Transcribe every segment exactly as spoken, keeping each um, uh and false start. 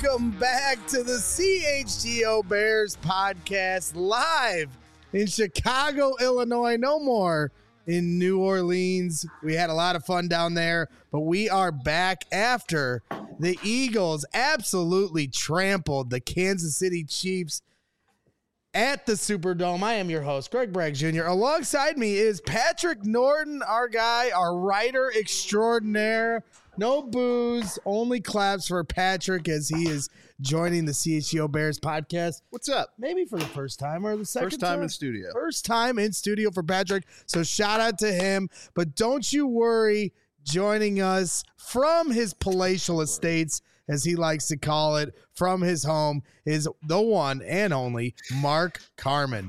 Welcome back to the C H G O Bears podcast live in Chicago, Illinois. No more in New Orleans. We had a lot of fun down there, but we are back after the Eagles absolutely trampled the Kansas City Chiefs at the Superdome. I am your host, Greg Bragg Junior Alongside me is Patrick Norton, our guy, our writer extraordinaire. No booze, only claps for Patrick as he is joining the C H G O Bears podcast. What's up? Maybe for the first time or the second First time time in studio. First time in studio for Patrick. So shout out to him. But don't you worry, joining us from his palatial estates, as he likes to call it, from his home, is the one and only Mark Carman.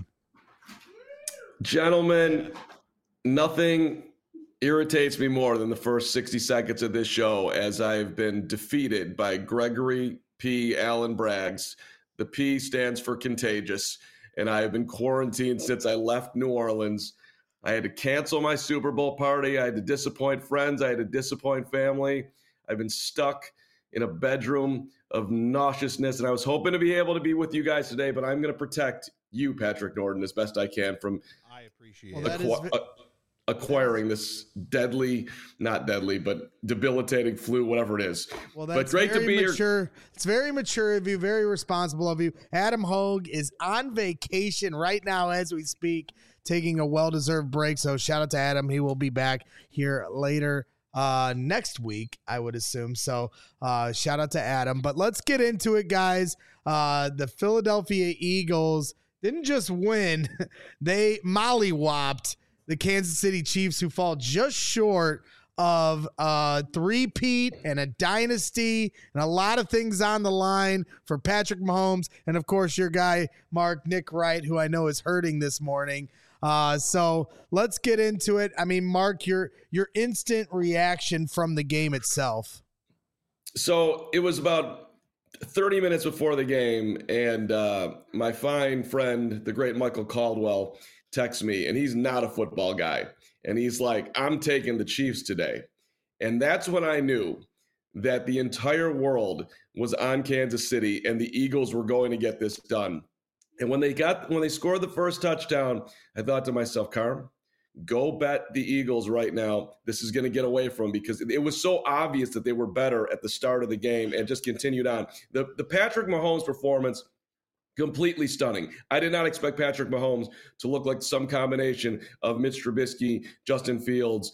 Gentlemen, nothing irritates me more than the first sixty seconds of this show, as I've been defeated by Gregory P. Allen Braggs. The P stands for contagious, and I have been quarantined since I left New Orleans. I had to cancel my Super Bowl party. I had to disappoint friends. I had to disappoint family. I've been stuck in a bedroom of nauseousness, and I was hoping to be able to be with you guys today, but I'm going to protect you, Patrick Norton, as best I can from I appreciate well, it. Aqua- uh, acquiring this deadly, not deadly, but debilitating flu, whatever it is. Well, that's but great very to be mature. here. It's very mature of you, very responsible of you. Adam Hogue is on vacation right now as we speak, taking a well-deserved break. So shout out to Adam. He will be back here later uh, next week, I would assume. So uh, shout out to Adam. But let's get into it, guys. Uh, the Philadelphia Eagles didn't just win. They mollywopped the Kansas City Chiefs, who fall just short of a three-peat and a dynasty and a lot of things on the line for Patrick Mahomes. And, of course, your guy, Mark, Nick Wright, who I know is hurting this morning. Uh, so let's get into it. I mean, Mark, your your instant reaction from the game itself. So it was about thirty minutes before the game, and uh, my fine friend, the great Michael Caldwell, texts me, and he's not a football guy. And he's like, I'm taking the Chiefs today. And that's when I knew that the entire world was on Kansas City and the Eagles were going to get this done. And when they got when they scored the first touchdown, I thought to myself, Carm, go bet the Eagles right now. This is going to get away from them, because it was so obvious that they were better at the start of the game and just continued on. The, the Patrick Mahomes performance, completely stunning. I did not expect Patrick Mahomes to look like some combination of Mitch Trubisky, Justin Fields,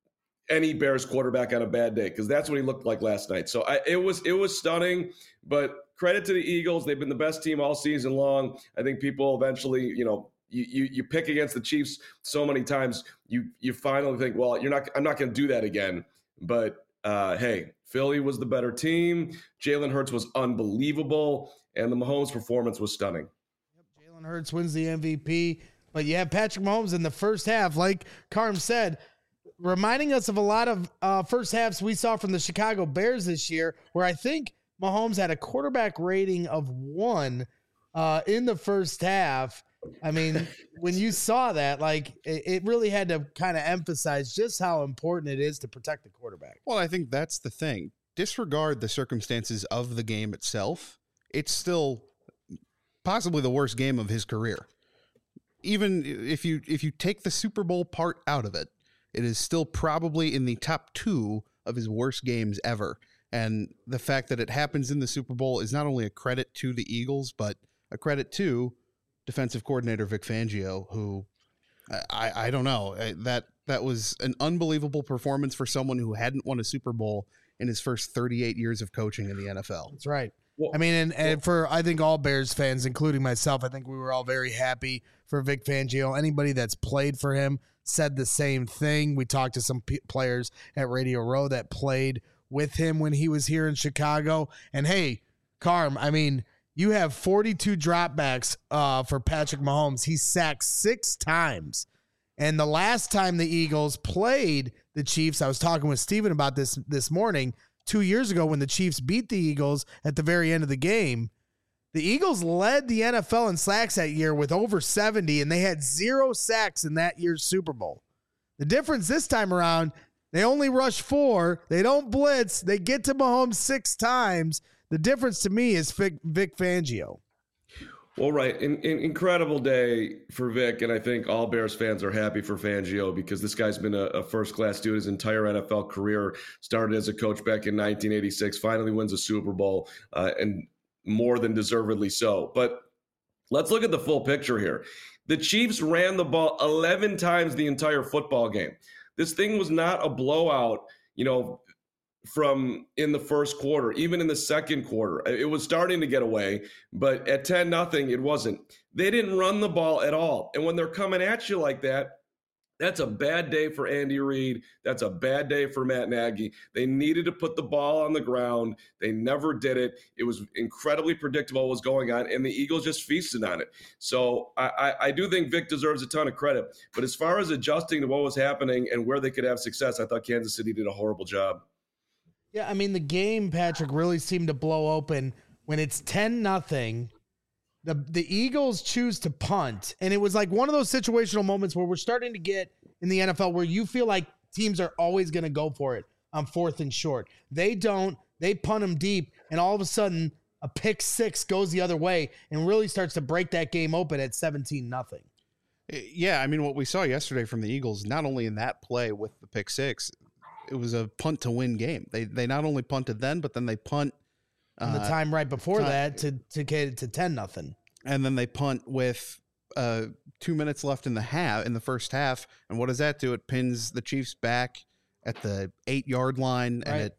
any Bears quarterback on a bad day, because that's what he looked like last night. So I, it was it was stunning, but credit to the Eagles. They've been the best team all season long. I think people eventually, you know, you you, you pick against the Chiefs so many times, you you finally think, well, you're not. I'm not going to do that again. But uh, hey, Philly was the better team. Jalen Hurts was unbelievable, and the Mahomes performance was stunning. Yep, Jalen Hurts wins the M V P, but you have Patrick Mahomes in the first half, like Carm said, reminding us of a lot of uh, first halves we saw from the Chicago Bears this year, where I think Mahomes had a quarterback rating of one uh, in the first half. I mean, when you saw that, like, it, it really had to kind of emphasize just how important it is to protect the quarterback. Well, I think that's the thing. Disregard the circumstances of the game itself. It's still possibly the worst game of his career. Even if you if you take the Super Bowl part out of it, it is still probably in the top two of his worst games ever. And the fact that it happens in the Super Bowl is not only a credit to the Eagles, but a credit to defensive coordinator Vic Fangio, who I, I don't know, that that was an unbelievable performance for someone who hadn't won a Super Bowl in his first thirty-eight years of coaching in the N F L. That's right. Well, I mean, and, and for, I think all Bears fans, including myself, I think we were all very happy for Vic Fangio. Anybody that's played for him said the same thing. We talked to some p- players at Radio Row that played with him when he was here in Chicago. And hey, Carm, I mean, you have forty-two dropbacks uh, for Patrick Mahomes. He sacked six times. And the last time the Eagles played the Chiefs, I was talking with Steven about this this morning, two years ago when the Chiefs beat the Eagles at the very end of the game. The Eagles led the N F L in sacks that year with over seventy, and they had zero sacks in that year's Super Bowl. The difference this time around, they only rush four. They don't blitz. They get to Mahomes six times. The difference to me is Vic, Vic Fangio. Well, right. In, in, incredible day for Vic, and I think all Bears fans are happy for Fangio because this guy's been a, a first-class dude his entire N F L career. Started as a coach back in nineteen eighty-six, finally wins a Super Bowl, uh, and more than deservedly so. But let's look at the full picture here. The Chiefs ran the ball eleven times the entire football game. This thing was not a blowout, you know, from in the first quarter, even in the second quarter. It was starting to get away, but at ten nothing, it wasn't. They didn't run the ball at all. And when they're coming at you like that, that's a bad day for Andy Reid. That's a bad day for Matt Nagy. They needed to put the ball on the ground. They never did it. It was incredibly predictable what was going on, and the Eagles just feasted on it. So I, I, I do think Vic deserves a ton of credit. But as far as adjusting to what was happening and where they could have success, I thought Kansas City did a horrible job. Yeah, I mean, the game, Patrick, really seemed to blow open when it's ten nothing. The the Eagles choose to punt, and it was like one of those situational moments where we're starting to get in the N F L where you feel like teams are always going to go for it on fourth and short. They don't. They punt them deep, and all of a sudden a pick six goes the other way and really starts to break that game open at seventeen nothing. Yeah, I mean, what we saw yesterday from the Eagles, not only in that play with the pick six, it was a punt to win game. They they not only punted then, but then they punt uh, the time right before time, that to to get it to ten nothing. And then they punt with uh, two minutes left in the half in the first half. And what does that do? It pins the Chiefs back at the eight yard line, right, and it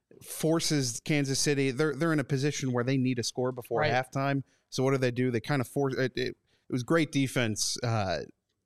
forces Kansas City. They're they're in a position where they need a score before right. halftime. So what do they do? They kind of force it. It, it was great defense uh,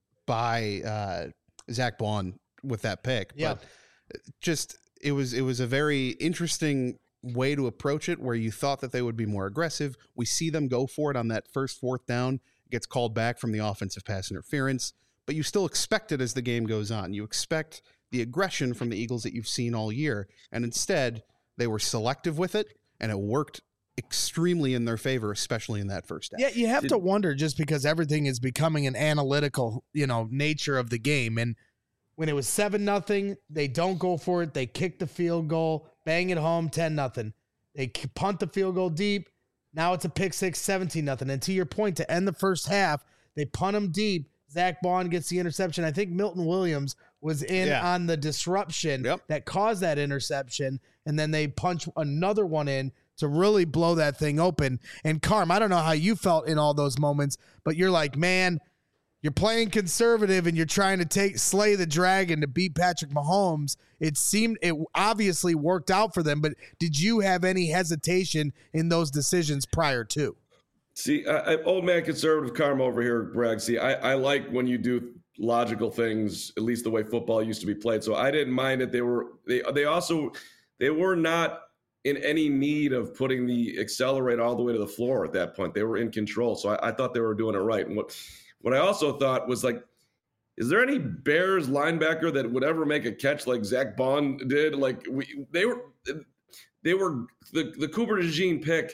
by uh, Zach Bond with that pick. Yeah. But just it was it was a very interesting way to approach it where you thought that they would be more aggressive. We see them go for it on that first fourth down. It gets called back from the offensive pass interference, but you still expect it as the game goes on. You expect the aggression from the Eagles that you've seen all year, and instead they were selective with it, and it worked extremely in their favor, especially in that first half. Yeah, you have to wonder just because everything is becoming an analytical, you know, nature of the game. And when it was seven nothing, they don't go for it. They kick the field goal, bang it home, ten nothing. They punt the field goal deep. Now it's a pick six, seventeen nothing. And to your point, to end the first half, they punt them deep. Zach Bond gets the interception. I think Milton Williams was in yeah. on the disruption yep. that caused that interception. And then they punch another one in to really blow that thing open. And Carm, I don't know how you felt in all those moments, but you're like, man, you're playing conservative and you're trying to take slay the dragon to beat Patrick Mahomes. It seemed it obviously worked out for them, but did you have any hesitation in those decisions prior to? See, I, I, old man conservative Carm over here, Greg. See, I, I like when you do logical things, at least the way football used to be played. So I didn't mind it. They were they they also they were not in any need of putting the accelerator all the way to the floor at that point. They were in control. So I, I thought they were doing it right. And what what I also thought was like, is there any Bears linebacker that would ever make a catch like Zach Bond did? Like we they were they were the the Cooper DeJean pick.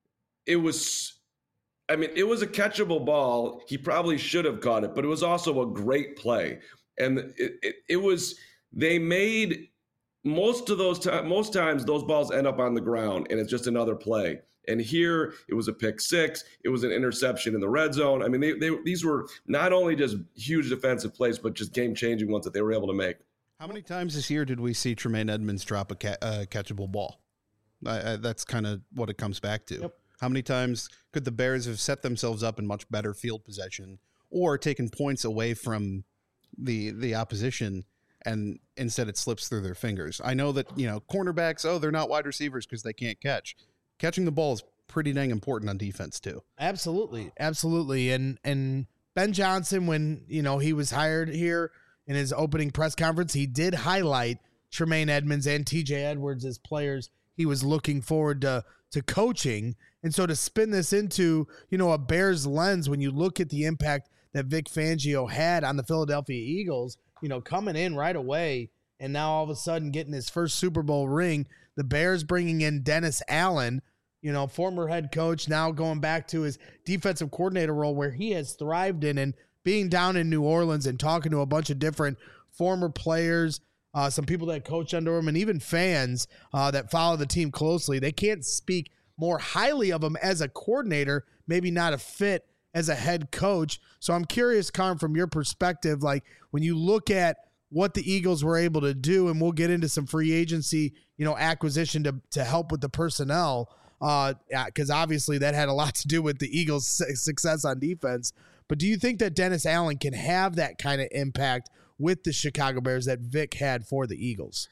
It was. I mean, it was a catchable ball. He probably should have caught it, but it was also a great play. And it, it, it was, they made most of those times, most times those balls end up on the ground and it's just another play. And here it was a pick six. It was an interception in the red zone. I mean, they, they these were not only just huge defensive plays, but just game-changing ones that they were able to make. How many times this year did we see Tremaine Edmonds drop a ca- uh, catchable ball? I, I, that's kind of what it comes back to. Yep. How many times could the Bears have set themselves up in much better field possession or taken points away from the the opposition, and instead it slips through their fingers? I know that, you know, cornerbacks, oh, they're not wide receivers because they can't catch. Catching the ball is pretty dang important on defense too. Absolutely. Absolutely. And and Ben Johnson, when, you know, he was hired here in his opening press conference, he did highlight Tremaine Edmonds and T J Edwards as players he was looking forward to to coaching. And so to spin this into, you know, a Bears lens, when you look at the impact that Vic Fangio had on the Philadelphia Eagles, you know, coming in right away and now all of a sudden getting his first Super Bowl ring, the Bears bringing in Dennis Allen, you know, former head coach, now going back to his defensive coordinator role where he has thrived in, and being down in New Orleans and talking to a bunch of different former players, uh, some people that coach under him, and even fans uh, that follow the team closely. They can't speak more highly of him as a coordinator, maybe not a fit as a head coach. So I'm curious, Carm, from your perspective, like when you look at what the Eagles were able to do, and we'll get into some free agency, you know, acquisition to, to help with the personnel, uh, because obviously that had a lot to do with the Eagles' success on defense. But do you think that Dennis Allen can have that kind of impact with the Chicago Bears that Vic had for the Eagles?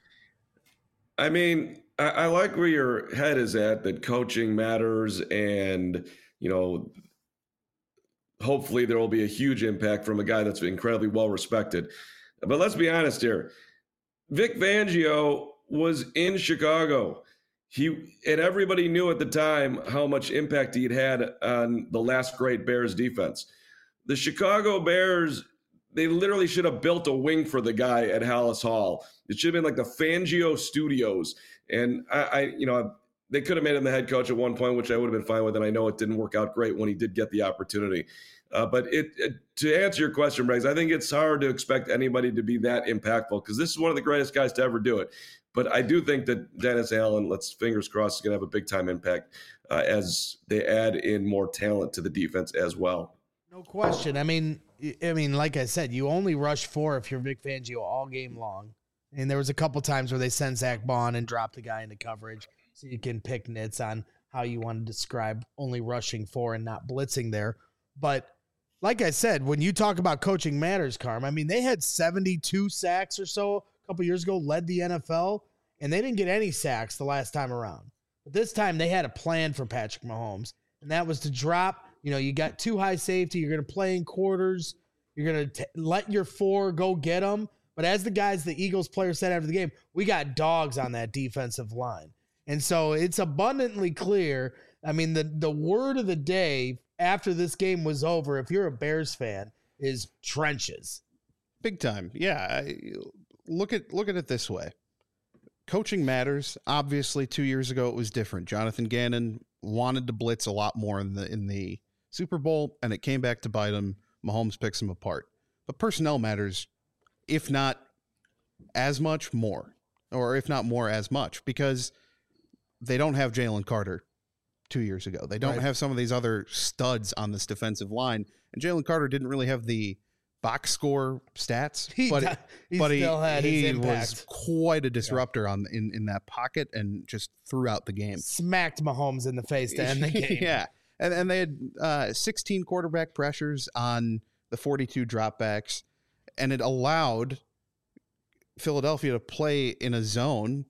I mean, I, I like where your head is at, that coaching matters, and, you know, hopefully there will be a huge impact from a guy that's incredibly well respected. But let's be honest here. Vic Fangio was in Chicago. He and everybody knew at the time how much impact he'd had on the last great Bears defense. The Chicago Bears, they literally should have built a wing for the guy at Hallis Hall. It should have been like the Fangio Studios. And I, I you know, they could have made him the head coach at one point, which I would have been fine with. And I know it didn't work out great when he did get the opportunity. Uh, but it, it, to answer your question, Briggs, I think it's hard to expect anybody to be that impactful because this is one of the greatest guys to ever do it. But I do think that Dennis Allen, let's fingers crossed, is going to have a big time impact uh, as they add in more talent to the defense as well. No question. I mean, I mean, like I said, you only rush four if you're Vic Fangio all game long. And there was a couple times where they sent Zach Bond and dropped the guy into coverage, so you can pick nits on how you want to describe only rushing four and not blitzing there. But like I said, when you talk about coaching matters, Carm, I mean, they had seventy-two sacks or so a couple years ago, led the N F L, and they didn't get any sacks the last time around. But this time they had a plan for Patrick Mahomes, and that was to drop. You know, you got two high safety. You're going to play in quarters. You're going to let your four go get them. But as the guys, the Eagles player said after the game, we got dogs on that defensive line. And so it's abundantly clear. I mean, the, the word of the day after this game was over, if you're a Bears fan, is trenches. Big time. Yeah. I, look at look at it this way. Coaching matters. Obviously, two years ago it was different. Jonathan Gannon wanted to blitz a lot more in the in the Super Bowl, and it came back to bite him. Mahomes picks him apart. But personnel matters, if not as much, more. Or if not more, as much. Because they don't have Jalen Carter two years ago. They don't right. have some of these other studs on this defensive line. And Jalen Carter didn't really have the box score stats, he, but, he but still he, had he his impact. was quite a disruptor yeah. on in, in that pocket and just throughout the game. Smacked Mahomes in the face to end the game. yeah. And, and they had uh, sixteen quarterback pressures on the forty-two dropbacks, and it allowed Philadelphia to play in a zone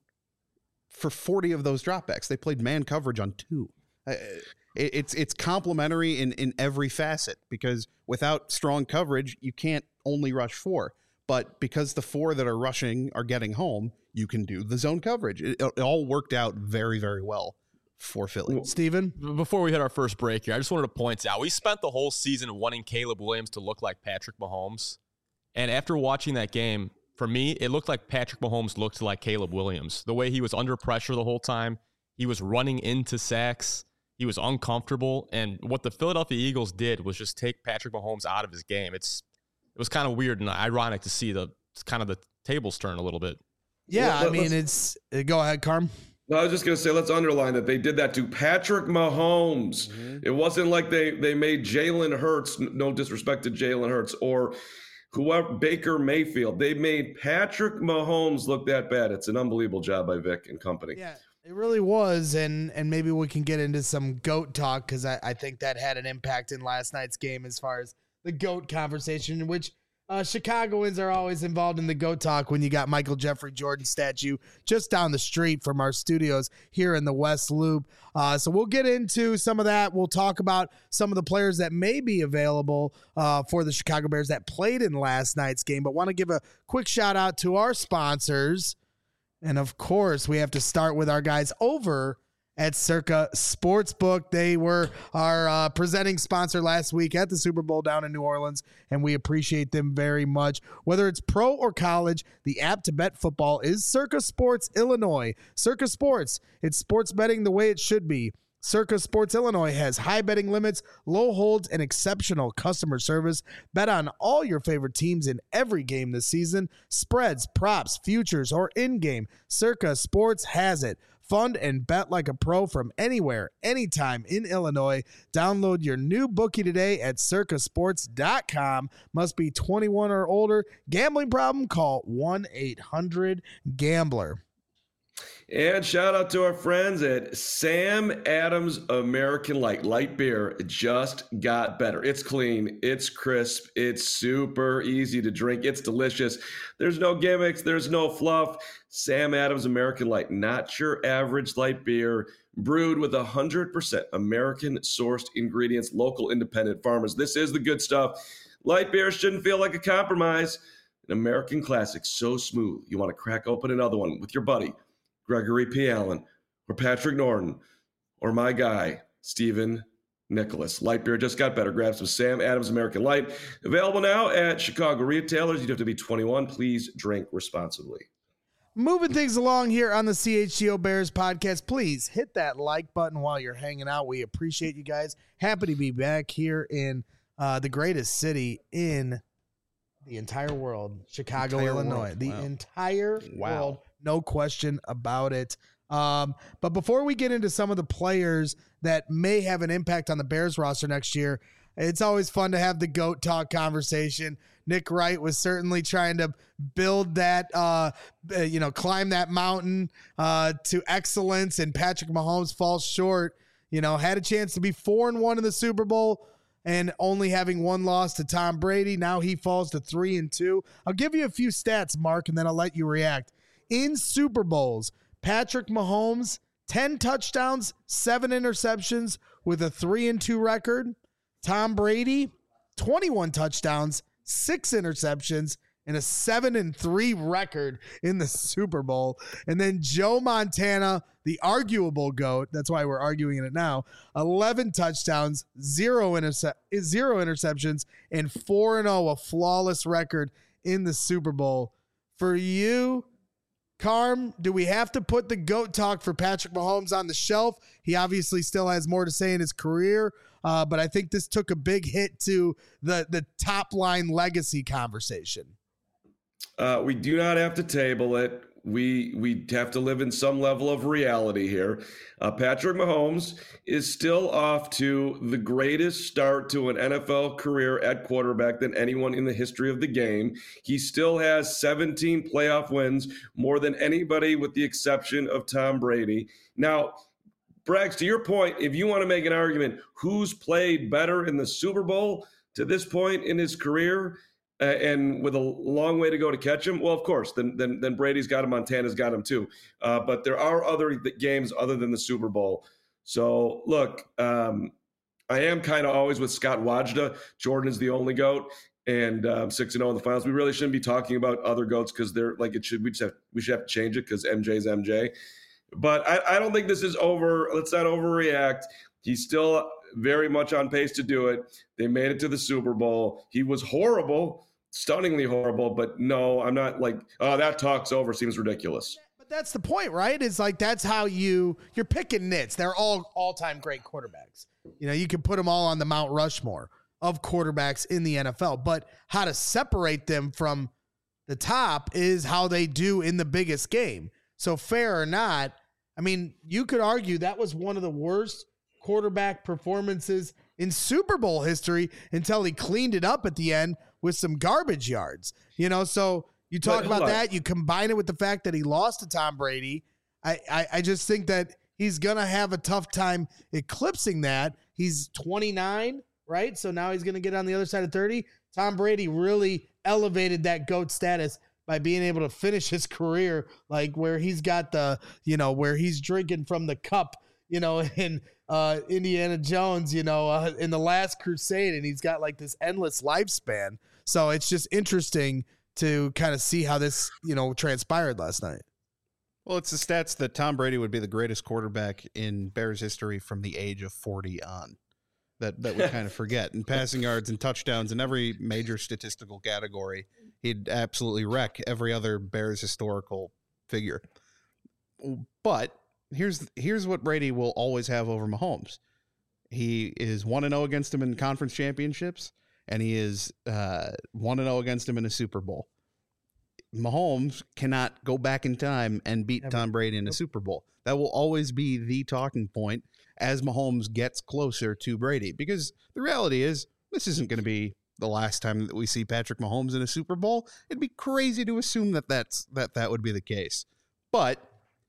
for forty of those dropbacks. They played man coverage on two. Uh, it, it's it's complementary in, in every facet, because without strong coverage, you can't only rush four. But because the four that are rushing are getting home, you can do the zone coverage. It, it all worked out very, very well for Philly. Steven? Before we hit our first break here, I just wanted to point out, we spent the whole season wanting Caleb Williams to look like Patrick Mahomes. And after watching that game, for me, it looked like Patrick Mahomes looked like Caleb Williams. The way he was under pressure the whole time, he was running into sacks, he was uncomfortable. And what the Philadelphia Eagles did was just take Patrick Mahomes out of his game. It's It was kind of weird and ironic to see the kind of the tables turn a little bit. Yeah, well, I mean, it's – go ahead, Carm. No, I was just going to say, let's underline that they did that to Patrick Mahomes. Mm-hmm. It wasn't like they, they made Jalen Hurts, no disrespect to Jalen Hurts, or whoever, Baker Mayfield. They made Patrick Mahomes look that bad. It's an unbelievable job by Vic and company. Yeah, it really was, and and maybe we can get into some GOAT talk, because I, I think that had an impact in last night's game as far as the GOAT conversation, in which uh, Chicagoans are always involved in the GOAT talk when you got Michael Jeffrey Jordan statue just down the street from our studios here in the West Loop. Uh, so we'll get into some of that. We'll talk about some of the players that may be available uh, for the Chicago Bears that played in last night's game, but want to give a quick shout out to our sponsors. And of course, we have to start with our guys over at Circa Sportsbook. They were our uh, presenting sponsor last week at the Super Bowl down in New Orleans, and we appreciate them very much. Whether it's pro or college, the app to bet football is Circa Sports Illinois. Circa Sports, it's sports betting the way it should be. Circa Sports Illinois has high betting limits, low holds, and exceptional customer service. Bet on all your favorite teams in every game this season. Spreads, props, futures, or in-game, Circa Sports has it. fund and bet like a pro from anywhere, anytime in Illinois. Download your new bookie today at circa sports dot com. Must be twenty-one or older. Gambling problem? Call one eight hundred gambler. And shout out to our friends at Sam Adams American Light. Light beer just got better. It's clean, it's crisp, it's super easy to drink, it's delicious. There's no gimmicks, there's no fluff. Sam Adams American Light, not your average light beer, brewed with one hundred percent American-sourced ingredients, local independent farmers. This is the good stuff. Light beer shouldn't feel like a compromise. An American classic, so smooth, you want to crack open another one with your buddy, Gregory P. Allen, or Patrick Norton, or my guy, Stephen Nicholas. Light beer just got better. Grab some Sam Adams American Light. Available now at Chicago retailers. You have to be twenty-one. Please drink responsibly. Moving things along here on the C H G O Bears podcast, please hit that like button while you're hanging out. We appreciate you guys. Happy to be back here in uh, the greatest city in the entire world, Chicago, Entire Illinois. world. The Wow. entire Wow. world, no question about it. Um, but before we get into some of the players that may have an impact on the Bears roster next year, it's always fun to have the GOAT talk conversation. Nick Wright was certainly trying to build that, uh, you know, climb that mountain uh, to excellence, and Patrick Mahomes falls short. You know, had a chance to be four and one in the Super Bowl and only having one loss to Tom Brady. Now he falls to three and two. I'll give you a few stats, Mark, and then I'll let you react. In Super Bowls, Patrick Mahomes, ten touchdowns, seven interceptions with a three and two record. Tom Brady, twenty-one touchdowns, six interceptions, and a seven and three record in the Super Bowl. And then Joe Montana, the arguable GOAT, that's why we're arguing it now, eleven touchdowns, zero, interce- zero interceptions, and four and oh, a flawless record in the Super Bowl. For you, Carm, do we have to put the GOAT talk for Patrick Mahomes on the shelf? He obviously still has more to say in his career, uh, but I think this took a big hit to the, the top line legacy conversation. Uh, we do not have to table it. We we have to live in some level of reality here. Uh, Patrick Mahomes is still off to the greatest start to an N F L career at quarterback than anyone in the history of the game. He still has seventeen playoff wins, more than anybody with the exception of Tom Brady. Now, Braggs, to your point, if you want to make an argument, who's played better in the Super Bowl to this point in his career, uh, and with a long way to go to catch him, well, of course, then then, then Brady's got him, Montana's got him too. Uh, but there are other th- games other than the Super Bowl. So, look, um, I am kind of always with Scott Wajda. Jordan is the only GOAT, and um, six and oh in the finals. We really shouldn't be talking about other GOATs because they're like it should. We just have we should have to change it because M J's M J. But I, I don't think this is over. Let's not overreact. He's still very much on pace to do it. They made it to the Super Bowl. He was horrible, stunningly horrible. But no, I'm not like, oh, that talk's over. Seems ridiculous. But that's the point, right? It's like that's how you you're picking nits. They're all all time great quarterbacks. You know, you can put them all on the Mount Rushmore of quarterbacks in the N F L. But how to separate them from the top is how they do in the biggest game. So fair or not, I mean, you could argue that was one of the worst quarterback performances in Super Bowl history until he cleaned it up at the end with some garbage yards. You know, so you talk But, about hold on. that, you combine it with the fact that he lost to Tom Brady. I, I, I just think that he's going to have a tough time eclipsing that. He's twenty-nine, right? So now he's going to get on the other side of thirty. Tom Brady really elevated that GOAT status by being able to finish his career like where he's got the, you know, where he's drinking from the cup, you know, in uh, Indiana Jones, you know, uh, in the Last Crusade, and he's got like this endless lifespan. So it's just interesting to kind of see how this, you know, transpired last night. Well, it's the stats that Tom Brady would be the greatest quarterback in Bears history from the age of forty on. That that we kind of forget. In passing yards and touchdowns in every major statistical category, he'd absolutely wreck every other Bears historical figure. But here's here's what Brady will always have over Mahomes. He is one and oh against him in conference championships, and he is uh, one and oh against him in a Super Bowl. Mahomes cannot go back in time and beat Never. Tom Brady in a Super Bowl. That will always be the talking point as Mahomes gets closer to Brady, because the reality is this isn't going to be the last time that we see Patrick Mahomes in a Super Bowl. It'd be crazy to assume that that's, that that would be the case. But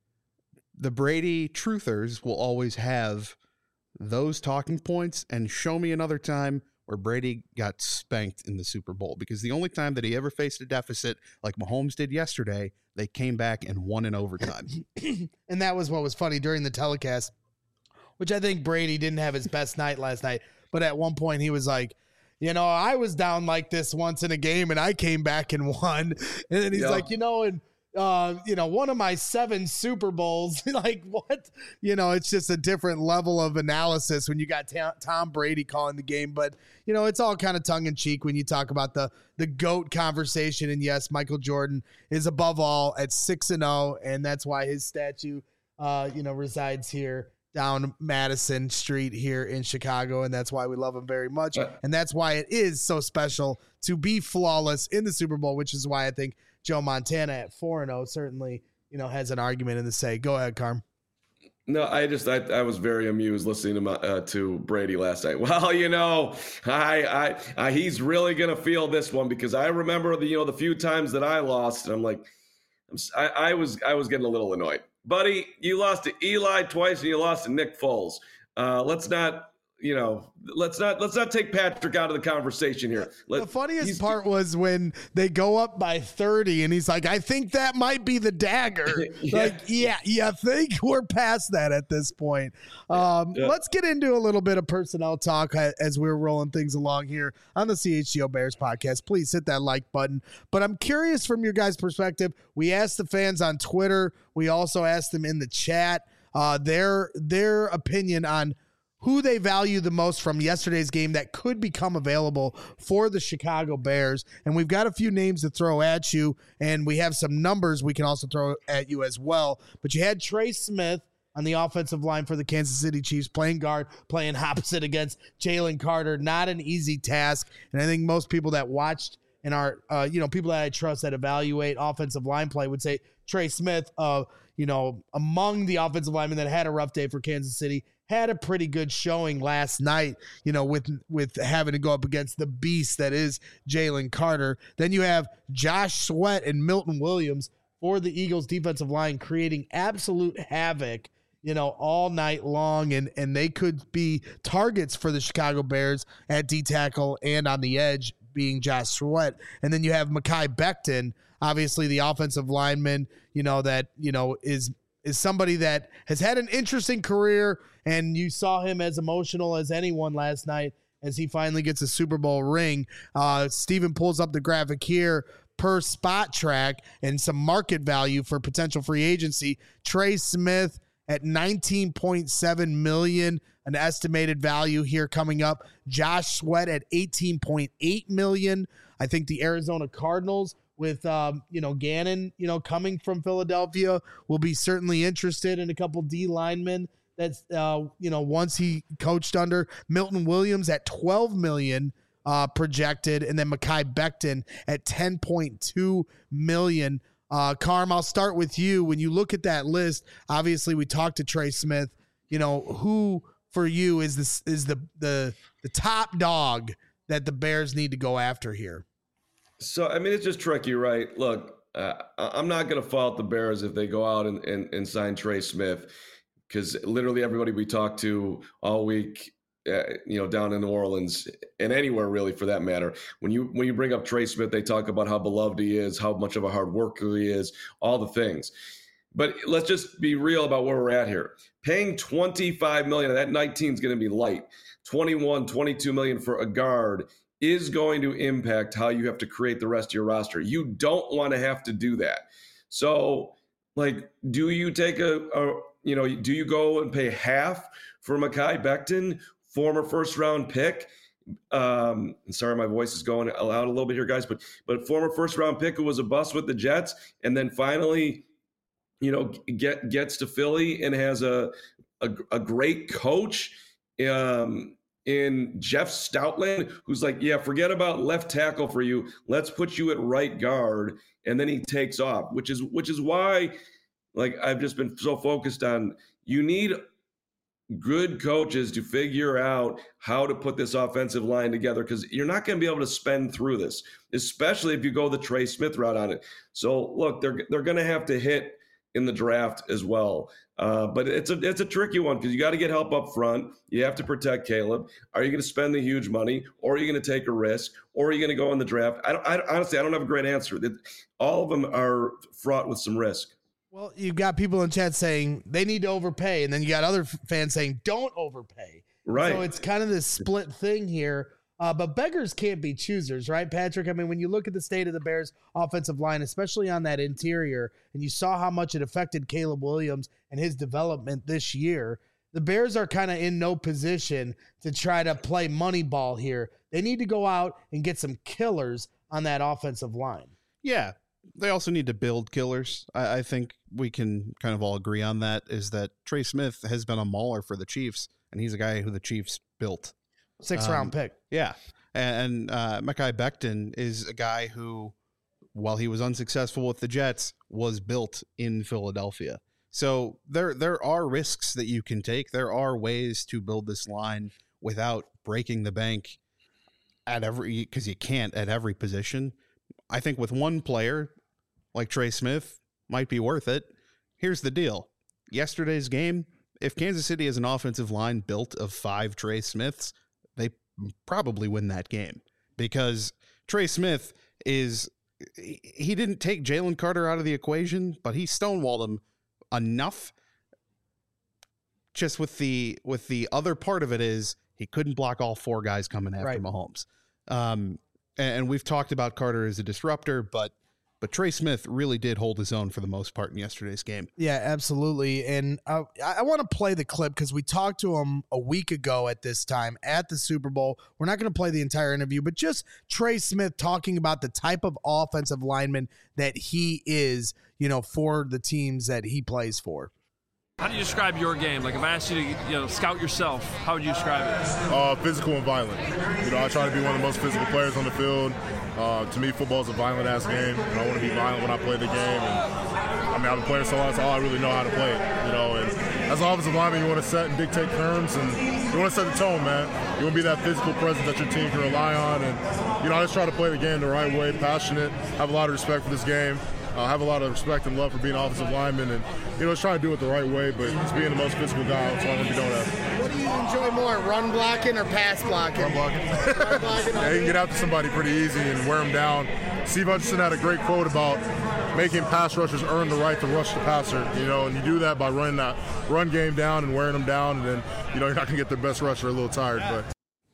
the Brady truthers will always have those talking points, and show me another time where Brady got spanked in the Super Bowl, because the only time that he ever faced a deficit like Mahomes did yesterday, they came back and won in overtime. And that was what was funny during the telecast, which I think Brady didn't have his best night last night. But at one point he was like, you know, I was down like this once in a game and I came back and won. And then he's Yeah. like, you know, and uh, you know, one of my seven Super Bowls, like what, you know, it's just a different level of analysis when you got ta- Tom Brady calling the game. But, you know, it's all kind of tongue in cheek when you talk about the, the GOAT conversation. And yes, Michael Jordan is above all at six and oh. And that's why his statue, uh, you know, resides here down Madison Street here in Chicago. And that's why we love him very much. Right. And that's why it is so special to be flawless in the Super Bowl, which is why I think Joe Montana at four and oh certainly, you know, has an argument in the say. Go ahead, Carm. No, I just I, I was very amused listening to my, uh, to Brady last night. Well, you know, I, I I he's really gonna feel this one, because I remember the you know the few times that I lost, and I'm like, I'm, I, I was I was getting a little annoyed, buddy. You lost to Eli twice, and you lost to Nick Foles. Uh, let's not. You know, let's not let's not take Patrick out of the conversation here. Let, the funniest part was when they go up by thirty and he's like, I think that might be the dagger. Yeah. Like, yeah, yeah, I think we're past that at this point. Um, Yeah. Let's get into a little bit of personnel talk as we're rolling things along here on the C H G O Bears podcast. Please hit that like button. But I'm curious from your guys' perspective. We asked the fans on Twitter. We also asked them in the chat uh, their their opinion on who they value the most from yesterday's game that could become available for the Chicago Bears. And we've got a few names to throw at you, and we have some numbers we can also throw at you as well. But you had Trey Smith on the offensive line for the Kansas City Chiefs, playing guard, playing opposite against Jalen Carter. Not an easy task. And I think most people that watched and are, uh, you know, people that I trust that evaluate offensive line play would say Trey Smith, uh, you know, among the offensive linemen that had a rough day for Kansas City, had a pretty good showing last night, you know, with with having to go up against the beast that is Jalen Carter. Then you have Josh Sweat and Milton Williams for the Eagles defensive line creating absolute havoc, you know, all night long. And, and they could be targets for the Chicago Bears at D-tackle and on the edge, being Josh Sweat. And then you have Mekhi Becton, obviously the offensive lineman, you know, that, you know, is is somebody that has had an interesting career, and you saw him as emotional as anyone last night as he finally gets a Super Bowl ring. Uh, Steven pulls up the graphic here per Spot Track and some market value for potential free agency. Trey Smith at nineteen point seven million dollars, an estimated value here coming up. Josh Sweat at eighteen point eight million dollars. I think the Arizona Cardinals, with, um, you know, Gannon, you know, coming from Philadelphia, will be certainly interested in a couple D linemen that's, uh, you know, once he coached under. Milton Williams at twelve million dollars uh, projected, and then Mekhi Becton at ten point two million dollars. Uh, Carm, I'll start with you. When you look at that list, obviously we talked to Trey Smith. You know, who for you is this is the the the top dog that the Bears need to go after here? So, I mean, it's just tricky, right? Look, uh, I'm not going to fault the Bears if they go out and, and, and sign Trey Smith, because literally everybody we talked to all week, uh, you know, down in New Orleans and anywhere really for that matter, when you when you bring up Trey Smith, they talk about how beloved he is, how much of a hard worker he is, all the things. But let's just be real about where we're at here. Paying twenty-five million dollars, that nineteen is going to be light. twenty-one, twenty-two million for a guard is going to impact how you have to create the rest of your roster. You don't want to have to do that. So, like, do you take a, a you know, do you go and pay half for Mekhi Becton, former first round pick? Um, sorry, my voice is going out a little bit here, guys, but but former first round pick who was a bust with the Jets, and then finally, you know, get gets to Philly and has a a, a great coach. Um, in Jeff Stoutland, who's like, yeah, forget about left tackle for you. Let's put you at right guard. And then he takes off, which is which is why, like, I've just been so focused on, you need good coaches to figure out how to put this offensive line together, because you're not going to be able to spend through this, especially if you go the Trey Smith route on it. So look, they're they're going to have to hit in the draft as well. Uh, but it's a it's a tricky one, because you got to get help up front. You have to protect Caleb. Are you going to spend the huge money, or are you going to take a risk, or are you going to go in the draft? I, don't, I honestly, I don't have a great answer. All of them are fraught with some risk. Well, you've got people in chat saying they need to overpay, and then you got other fans saying don't overpay. Right. So it's kind of this split thing here. Uh, but beggars can't be choosers, right, Patrick? I mean, when you look at the state of the Bears' offensive line, especially on that interior, and you saw how much it affected Caleb Williams and his development this year, the Bears are kind of in no position to try to play money ball here. They need to go out and get some killers on that offensive line. Yeah. They also need to build killers. I, I think we can kind of all agree on that, is that Trey Smith has been a mauler for the Chiefs, and he's a guy who the Chiefs built. Six um, round pick. Yeah. And uh, Mekhi Becton is a guy who, while he was unsuccessful with the Jets, was built in Philadelphia. So there there are risks that you can take. There are ways to build this line without breaking the bank at every, because you can't at every position. I think with one player like Trey Smith might be worth it. Here's the deal. Yesterday's game, if Kansas City has an offensive line built of five Trey Smiths, they probably win that game, because Trey Smith is, he didn't take Jalen Carter out of the equation, but he stonewalled him enough. Just with the, with the other part of it is he couldn't block all four guys coming after Right. Mahomes. Um, and we've talked about Carter as a disruptor, but but Trey Smith really did hold his own for the most part in yesterday's game. Yeah, absolutely. And uh, I, I want to play the clip, because we talked to him a week ago at this time at the Super Bowl. We're not going to play the entire interview, but just Trey Smith talking about the type of offensive lineman that he is, you know, for the teams that he plays for. How do you describe your game? Like, if I asked you to, you know, scout yourself, how would you describe it? Uh, physical and violent. You know, I try to be one of the most physical players on the field. Uh, to me, football is a violent-ass game, and I want to be violent when I play the game. And I mean, I've been playing so long, that's all I really know how to play it. You know, and as an offensive lineman, you want to set and dictate terms, and you want to set the tone, man. You want to be that physical presence that your team can rely on. And you know, I just try to play the game the right way, passionate, have a lot of respect for this game. I uh, have a lot of respect and love for being an offensive lineman, and you know, just trying to do it the right way, but it's being the most physical guy, that's all I'm going to be doing that. What do you enjoy more, run blocking or pass blocking? Run blocking. Run blocking. Yeah, you can get after somebody pretty easy and wear them down. Steve Hutchinson had a great quote about making pass rushers earn the right to rush the passer, you know, and you do that by running that run game down and wearing them down, and then, you know, you're not going to get the best rusher a little tired. But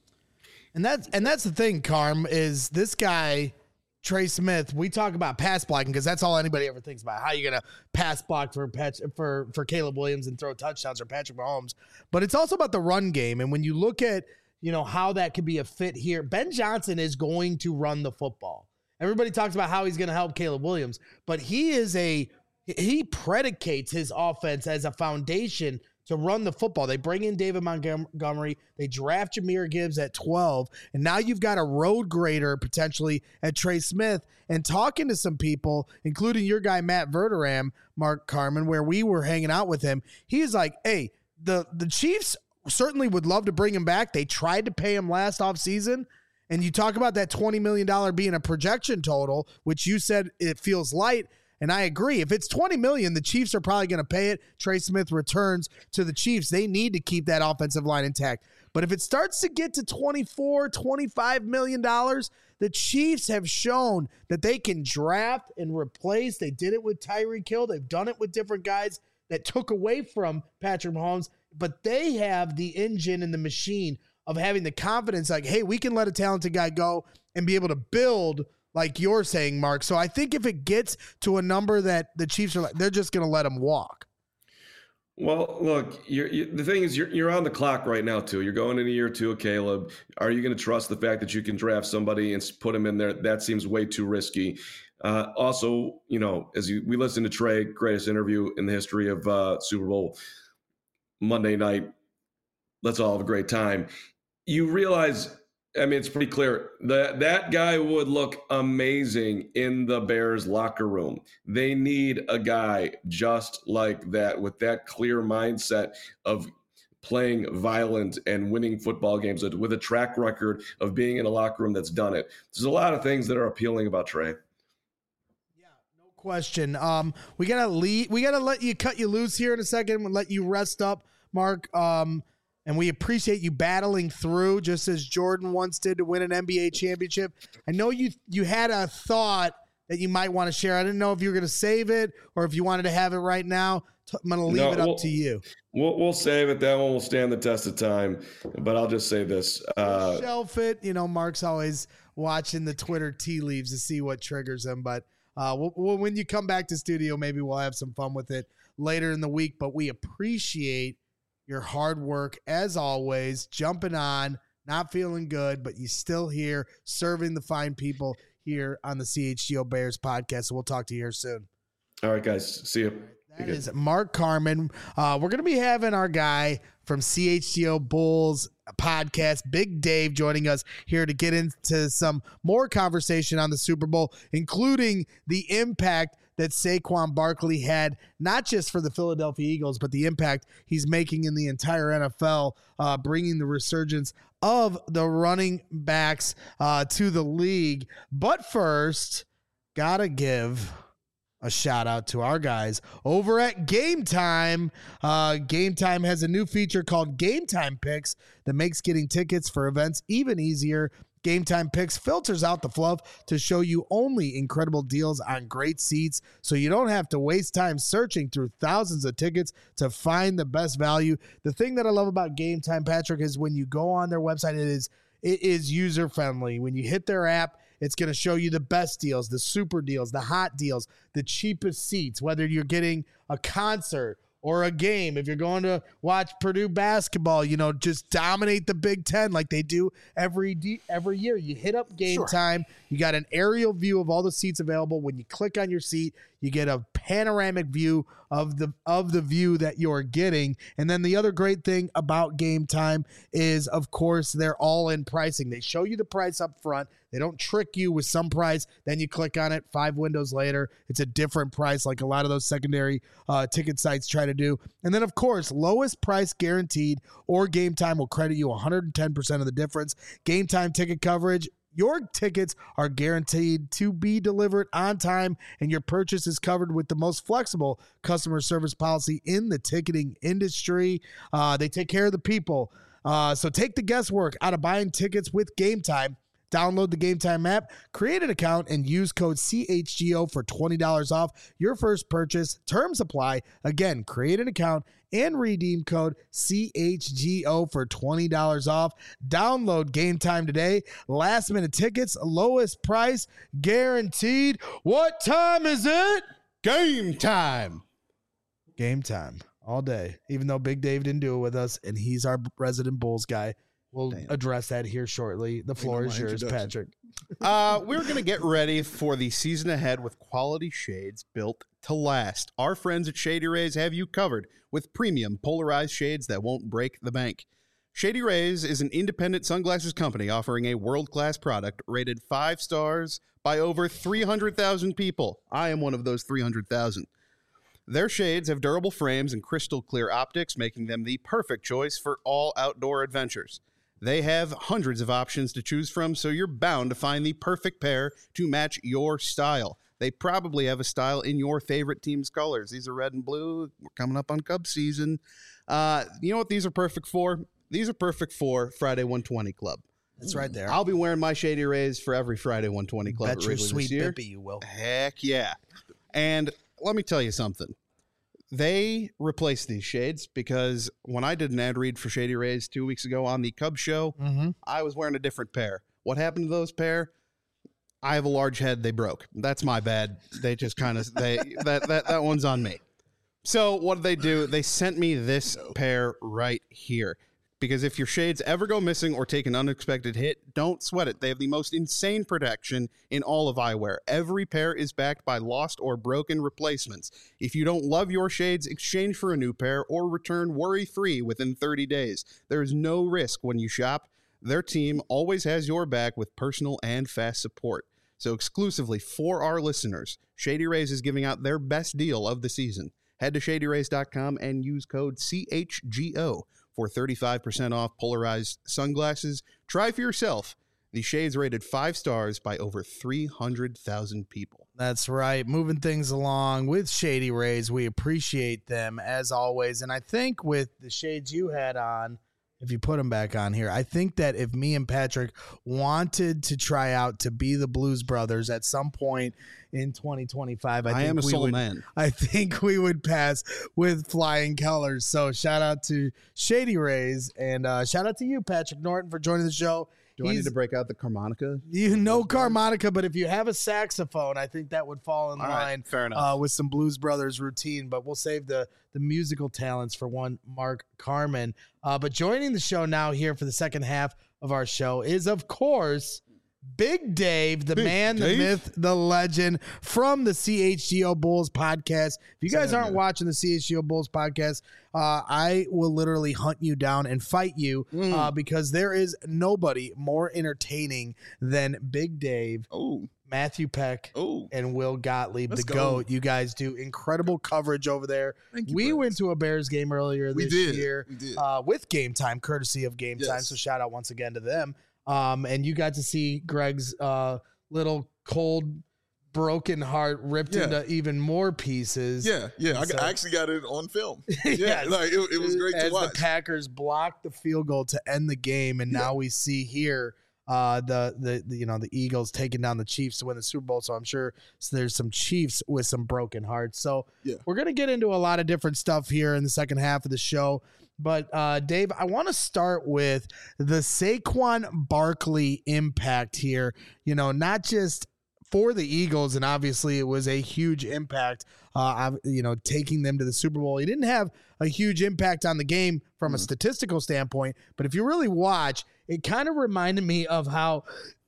And that's and that's the thing, Carm, is this guy, Trey Smith, we talk about pass blocking because that's all anybody ever thinks about. How you going to pass block for Pat, for for Caleb Williams and throw touchdowns, or Patrick Mahomes. But it's also about the run game. And when you look at, you know, how that could be a fit here, Ben Johnson is going to run the football. Everybody talks about how he's going to help Caleb Williams, but he is a he predicates his offense as a foundation to run the football. They bring in David Montgomery. They draft Jahmyr Gibbs at twelve. And now you've got a road grader potentially at Trey Smith. And talking to some people, including your guy, Matt Verderam, Mark Carman, where we were hanging out with him, he's like, hey, the, the Chiefs certainly would love to bring him back. They tried to pay him last offseason. And you talk about that twenty million dollars being a projection total, which you said it feels light. And I agree. If it's twenty million dollars, the Chiefs are probably going to pay it. Trey Smith returns to the Chiefs. They need to keep that offensive line intact. But if it starts to get to twenty-four, twenty-five million dollars, the Chiefs have shown that they can draft and replace. They did it with Tyreek Hill. They've done it with different guys that took away from Patrick Mahomes. But they have the engine and the machine of having the confidence, like, hey, we can let a talented guy go and be able to build, like you're saying, Mark. So I think if it gets to a number that the Chiefs are like, they're just going to let him walk. Well, look, you're, you, the thing is, you're you're on the clock right now, too. You're going into year two of Caleb. Are you going to trust the fact that you can draft somebody and put him in there? That seems way too risky. Uh, also, you know, as you, we listened to Trey, greatest interview in the history of uh, Super Bowl Monday night. Let's all have a great time. you realize, I mean, it's pretty clear that that guy would look amazing in the Bears locker room. They need a guy just like that, with that clear mindset of playing violent and winning football games, with a track record of being in a locker room that's done it. There's a lot of things that are appealing about Trey. Yeah, no question. Um, we gotta lead. We gotta let you cut you loose here in a second and let you rest up, Mark. Um, and we appreciate you battling through, just as Jordan once did to win an N B A championship. I know you you had a thought that you might want to share. I didn't know if you were going to save it or if you wanted to have it right now. I'm going to leave No, it up we'll, to you. We'll, we'll save it. That one will stand the test of time. But I'll just say this. Uh, Shelf it. You know, Mark's always watching the Twitter tea leaves to see what triggers him. But uh, we'll, we'll, when you come back to studio, maybe we'll have some fun with it later in the week. But we appreciate your hard work, as always, jumping on, not feeling good, but you still here serving the fine people here on the C H G O Bears podcast. So we'll talk to you here soon. All right, guys. See you. That is Mark Carman. Uh, we're going to be having our guy from C H G O Bulls podcast, Big Dave, joining us here to get into some more conversation on the Super Bowl, including the impact that Saquon Barkley had, not just for the Philadelphia Eagles, but the impact he's making in the entire N F L, uh, bringing the resurgence of the running backs uh, to the league. But first, gotta give a shout out to our guys over at Game Time. Uh, Game Time has a new feature called Game Time Picks that makes getting tickets for events even easier. Game Time Picks filters out the fluff to show you only incredible deals on great seats, so you don't have to waste time searching through thousands of tickets to find the best value. The thing that I love about Game Time, Patrick, is when you go on their website, it is it is user friendly. When you hit their app, it's going to show you the best deals, the super deals, the hot deals, the cheapest seats, whether you're getting a concert or a game. If you're going to watch Purdue basketball, you know, just dominate the Big Ten like they do every de- every year. You hit up Game Sure. Time. You got an aerial view of all the seats available. When you click on your seat, you get a panoramic view of the of the view that you're getting. And then the other great thing about Game Time is, of course, they're all in pricing. They show you the price up front. They don't trick you with some price. Then you click on it. Five windows later, it's a different price, like a lot of those secondary uh, ticket sites try to do. And then, of course, lowest price guaranteed, or Game Time will credit you one hundred ten percent of the difference. Game Time ticket coverage. Your tickets are guaranteed to be delivered on time, and your purchase is covered with the most flexible customer service policy in the ticketing industry. Uh, they take care of the people. Uh, so take the guesswork out of buying tickets with Game Time. Download the Game Time app, create an account, and use code C H G O for twenty dollars off your first purchase. Terms apply. Again, create an account and redeem code C H G O for twenty dollars off. Download Game Time today. Last minute tickets, lowest price guaranteed. What time is it? Game time. Game time all day. Even though Big Dave didn't do it with us, and he's our resident Bulls guy. We'll Damn. address that here shortly. The floor know is my yours, introduction. Patrick. Uh, we're going to get ready for the season ahead with quality shades built to last. Our friends at Shady Rays have you covered with premium polarized shades that won't break the bank. Shady Rays is an independent sunglasses company offering a world-class product rated five stars by over three hundred thousand people. I am one of those three hundred thousand. Their shades have durable frames and crystal clear optics, making them the perfect choice for all outdoor adventures. They have hundreds of options to choose from, so you're bound to find the perfect pair to match your style. They probably have a style in your favorite team's colors. These are red and blue. We're coming up on Cubs season. Uh, you know what these are perfect for? These are perfect for Friday one twenty Club. That's right there. I'll be wearing my Shady Rays for every Friday one twenty Club. Bet at your Wrigley sweet this year. bippy you will. Heck yeah. And let me tell you something. They replaced these shades because when I did an ad read for Shady Rays two weeks ago on the Cubs show, Mm-hmm. I was wearing a different pair. What happened to those pair? I have a large head. They broke. That's my bad. They just kind of they that that that one's on me. So what did they do? They sent me this pair right here. Because if your shades ever go missing or take an unexpected hit, don't sweat it. They have the most insane protection in all of eyewear. Every pair is backed by lost or broken replacements. If you don't love your shades, exchange for a new pair or return worry-free within thirty days. There is no risk when you shop. Their team always has your back with personal and fast support. So exclusively for our listeners, Shady Rays is giving out their best deal of the season. Head to shady rays dot com and use code C H G O for thirty-five percent off polarized sunglasses. Try for yourself. The shades rated five stars by over three hundred thousand people. That's right. Moving things along with Shady Rays. We appreciate them as always. And I think with the shades you had on, if you put them back on here, I think that if me and Patrick wanted to try out to be the Blues Brothers at some point in twenty twenty-five, I, I think am a we soul would, man. I think we would pass with flying colors. So shout out to Shady Rays, and uh, shout out to you, Patrick Norton, for joining the show. Do I need to break out the harmonica? You know harmonica, but if you have a saxophone, I think that would fall in All line right, fair enough. Uh, with some Blues Brothers routine. But we'll save the the musical talents for one Mark Carman. Uh, but joining the show now here for the second half of our show is, of course, Big Dave, the Big man, Dave. the myth, the legend from the C H G O Bulls podcast. If you guys aren't watching the C H G O Bulls podcast, uh, I will literally hunt you down and fight you Mm. uh, because there is nobody more entertaining than Big Dave, Oh, Matthew Peck, oh. and Will Gottlieb, Let's the go. GOAT. You guys do incredible coverage over there. Thank you, We Brett. went to a Bears game earlier We this did. year We did. Uh, with Game Time, courtesy of Game Time. Yes. So shout out once again to them. Um, and you got to see Greg's uh, little cold, broken heart ripped Yeah. into even more pieces. Yeah, yeah. I, So- I actually got it on film. Yeah, Yes. like it, it was great As to watch. the Packers blocked the field goal to end the game, and Yeah. now we see here uh, the, the the you know the Eagles taking down the Chiefs to win the Super Bowl. So I'm sure there's some Chiefs with some broken hearts. So Yeah. we're gonna get into a lot of different stuff here in the second half of the show. But uh, Dave, I want to start with the Saquon Barkley impact here. You know, not just for the Eagles, and obviously it was a huge impact, uh, you know, taking them to the Super Bowl. He didn't have a huge impact on the game from a statistical standpoint, but if you really watch, it kind of reminded me of how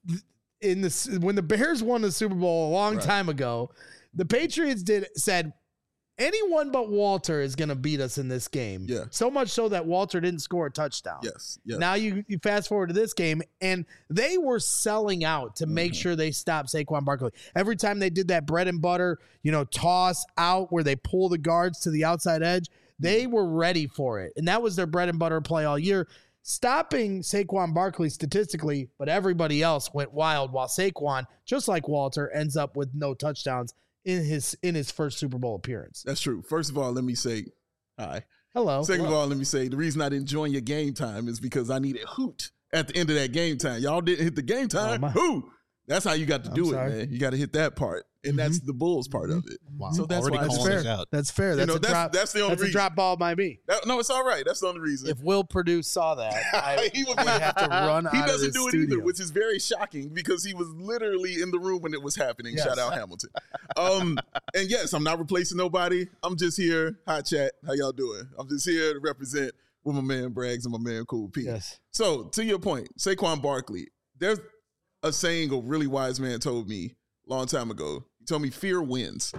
in the when the Bears won the Super Bowl a long Right. time ago, the Patriots did said, anyone but Walter is going to beat us in this game. Yeah. So much so that Walter didn't score a touchdown. Yes, yes. Now you, you fast forward to this game, and they were selling out to make Mm-hmm. sure they stopped Saquon Barkley. Every time they did that bread and butter, you know, toss out where they pull the guards to the outside edge, they Mm-hmm. were ready for it. And that was their bread and butter play all year. Stopping Saquon Barkley statistically, but everybody else went wild while Saquon, just like Walter, ends up with no touchdowns in his in his first Super Bowl appearance. That's true. First of all, let me say hi. Hello. Second of all, let me say the reason I didn't join your game time is because I needed hoot at the end of that game time. Y'all didn't hit the game time. my- Who? That's how you got to I'm do sorry. it, man. You got to hit that part, and that's the Bulls part of it. Wow. So that's Already why I That's calling just- fair. us out. That's fair. That's know, a that's- drop. that's the only that's a reason. drop ball by me. That- no, it's all right. That's the only reason. If Will Purdue saw that, I He would would be- have to run he out of doesn't this do it studio. either, which is very shocking because he was literally in the room when it was happening. Yes. Shout out Hamilton. Um, and yes, I'm not replacing nobody. I'm just here. Hi, chat. How y'all doing? I'm just here to represent with my man Braggs and my man Cool P. Yes. So to your point, Saquon Barkley, there's a saying a really wise man told me a long time ago. He told me fear wins.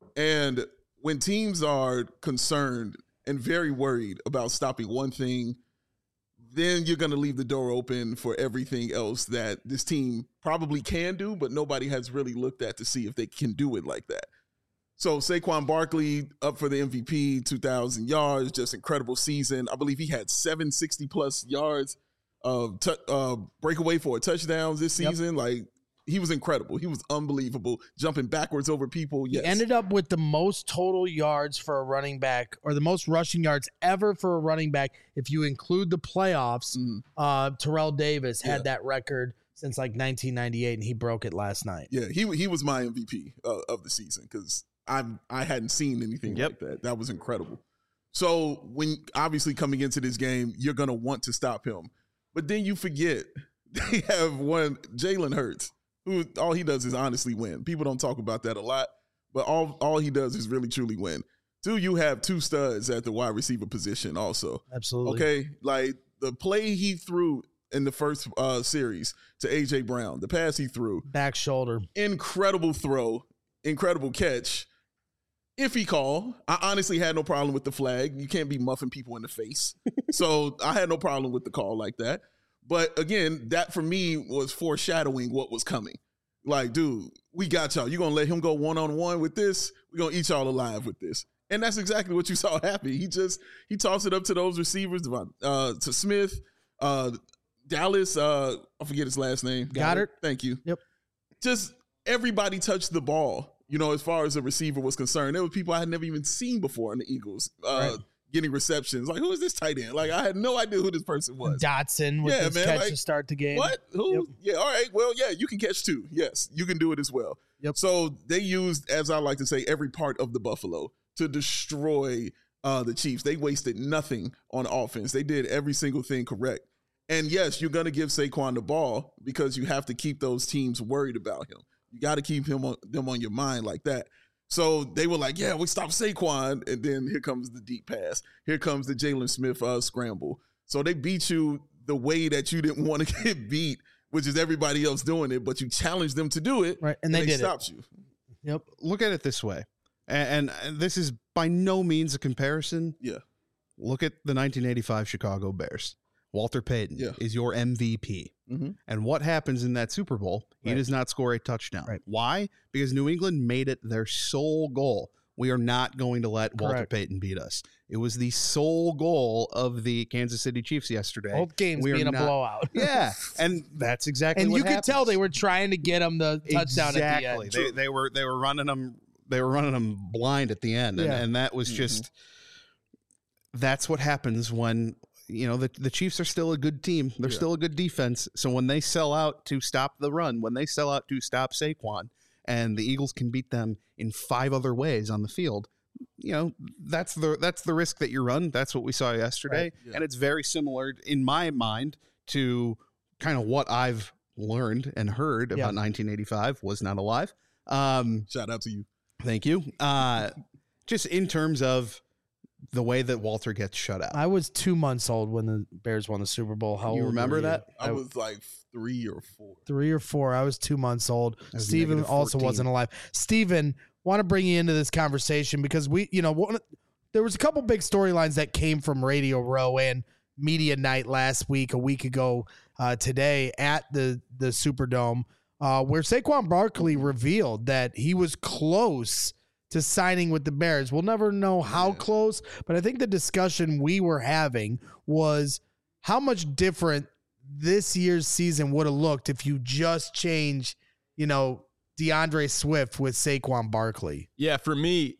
And when teams are concerned and very worried about stopping one thing, then you're going to leave the door open for everything else that this team probably can do, but nobody has really looked at to see if they can do it like that. So Saquon Barkley up for the M V P, two thousand yards, just incredible season. I believe he had seven sixty plus yards of t- uh, breakaway for touchdowns this Yep. season. Like, he was incredible. He was unbelievable, jumping backwards over people. Yes. He ended up with the most total yards for a running back, or the most rushing yards ever for a running back. If you include the playoffs, Mhm. uh, Terrell Davis had Yeah. that record since like nineteen ninety-eight, and he broke it last night. Yeah, he he was my M V P uh, of the season because I I hadn't seen anything Yep. like that. That was incredible. So when obviously coming into this game, you're gonna want to stop him, but then you forget they have one Jalen Hurts, who all he does is honestly win. People don't talk about that a lot, but all all he does is really truly win. Two, you have two studs at the wide receiver position also. Absolutely. Okay, like the play he threw in the first uh, series to A J Brown, the pass he threw, Back shoulder. incredible throw, incredible catch. Iffy call. I honestly had no problem with the flag. You can't be muffing people in the face. So I had no problem with the call like that. But again, that for me was foreshadowing what was coming. Like, dude, we got y'all. You gonna let him go one on one with this? We're gonna eat y'all alive with this. And that's exactly what you saw happen. He just he tossed it up to those receivers, uh, to Smith, uh, Dallas. Uh, I forget his last name. Goddard. Thank you. Yep. Just everybody touched the ball. You know, as far as a receiver was concerned, there were people I had never even seen before in the Eagles uh, right. getting receptions. Like, who is this tight end? Like, I had no idea who this person was. Dotson with yeah, his man, catch like, to start the game. What? Who? Yep. Yeah, all right. Well, yeah, you can catch too. Yes, you can do it as well. Yep. So they used, as I like to say, every part of the Buffalo to destroy uh, the Chiefs. They wasted nothing on offense. They did every single thing correct. And yes, you're going to give Saquon the ball because you have to keep those teams worried about him. You got to keep him on, them on your mind like that. So they were like, yeah, we stopped Saquon. And then here comes the deep pass. Here comes the Jalen Smith uh, scramble. So they beat you the way that you didn't want to get beat, which is everybody else doing it, but you challenged them to do it. Right. And they, and they did stopped it. you. Yep. Look at it this way. And, and this is by no means a comparison. Yeah. Look at the nineteen eighty-five Chicago Bears. Walter Payton yeah. is your M V P. Mm-hmm. And what happens in that Super Bowl? He right. does not score a touchdown. Right. Why? Because New England made it their sole goal. We are not going to let Walter Correct. Payton beat us. It was the sole goal of the Kansas City Chiefs yesterday. Both games we being a not, blowout. Yeah, and that's exactly and what you happens. could tell they were trying to get him the touchdown exactly. at the end. They, they were they were running them they were running them blind at the end, and, yeah. and that was just mm-hmm. that's what happens when. You know, the, the Chiefs are still a good team. They're yeah. still a good defense. So when they sell out to stop the run, when they sell out to stop Saquon, and the Eagles can beat them in five other ways on the field, you know, that's the that's the risk that you run. That's what we saw yesterday. Right. Yeah. And it's very similar in my mind to kind of what I've learned and heard about yeah. nineteen eighty-five, was not alive. Um, Shout out to you. Thank you. Uh, just in terms of the way that Walter gets shut out. I was two months old when the Bears won the Super Bowl. How you old remember were you? that? I was like three or four. Three or four. I was two months old. Steven also wasn't alive. Steven, want to bring you into this conversation because we, you know, one, there was a couple big storylines that came from Radio Row and Media Night last week, a week ago uh, today at the, the Superdome, uh, where Saquon Barkley revealed that he was close to signing with the Bears. We'll never know how close, but I think the discussion we were having was how much different this year's season would have looked if you just change, you know, DeAndre Swift with Saquon Barkley. Yeah, for me,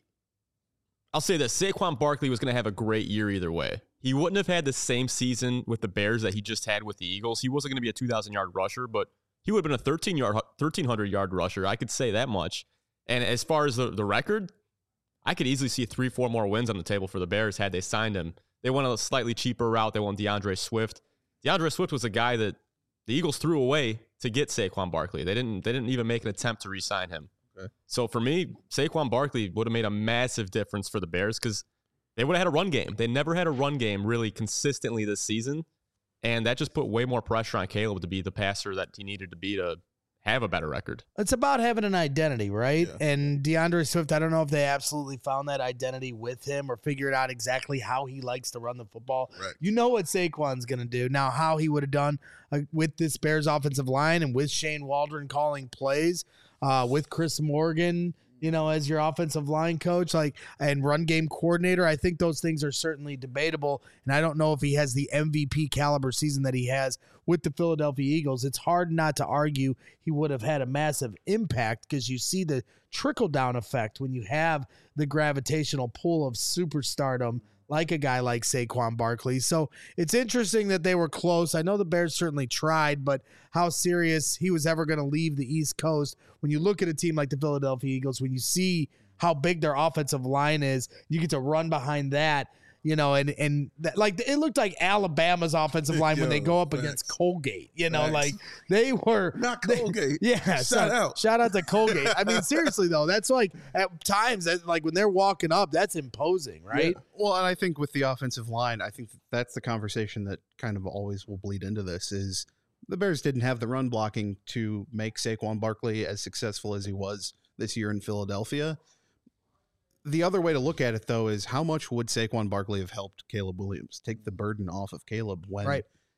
I'll say that Saquon Barkley was going to have a great year either way. He wouldn't have had the same season with the Bears that he just had with the Eagles. He wasn't going to be a two thousand yard rusher, but he would have been a thirteen hundred yard rusher. I could say that much. And as far as the, the record, I could easily see three, four more wins on the table for the Bears had they signed him. They went a slightly cheaper route. They won DeAndre Swift. DeAndre Swift was a guy that the Eagles threw away to get Saquon Barkley. They didn't they didn't even make an attempt to re-sign him. Okay. So for me, Saquon Barkley would have made a massive difference for the Bears because they would have had a run game. They never had a run game really consistently this season. And that just put way more pressure on Caleb to be the passer that he needed to be to have a better record. It's about having an identity, right? Yeah. And DeAndre Swift, I don't know if they absolutely found that identity with him or figured out exactly how he likes to run the football. Right. You know what Saquon's going to do. Now, how he would have done uh, with this Bears offensive line and with Shane Waldron calling plays, uh, with Chris Morgan, you know, as your offensive line coach, like, and run game coordinator, I think those things are certainly debatable. And I don't know if he has the M V P caliber season that he has with the Philadelphia Eagles. It's hard not to argue he would have had a massive impact because you see the trickle down effect when you have the gravitational pull of superstardom like a guy like Saquon Barkley. So it's interesting that they were close. I know the Bears certainly tried, but how serious he was ever going to leave the East Coast. When you look at a team like the Philadelphia Eagles, when you see how big their offensive line is, you get to run behind that, you know, and, and that, like, it looked like Alabama's offensive line Yo, when they go up facts. against Colgate, you know, facts. like they were not Colgate. They, yeah. Shout so, out. Shout out to Colgate. I mean, seriously though, that's like at times that, like when they're walking up, that's imposing, right? Yeah. Well, and I think with the offensive line, I think that's the conversation that kind of always will bleed into this is the Bears didn't have the run blocking to make Saquon Barkley as successful as he was this year in Philadelphia. The other way to look at it, though, is how much would Saquon Barkley have helped Caleb Williams take the burden off of Caleb when right.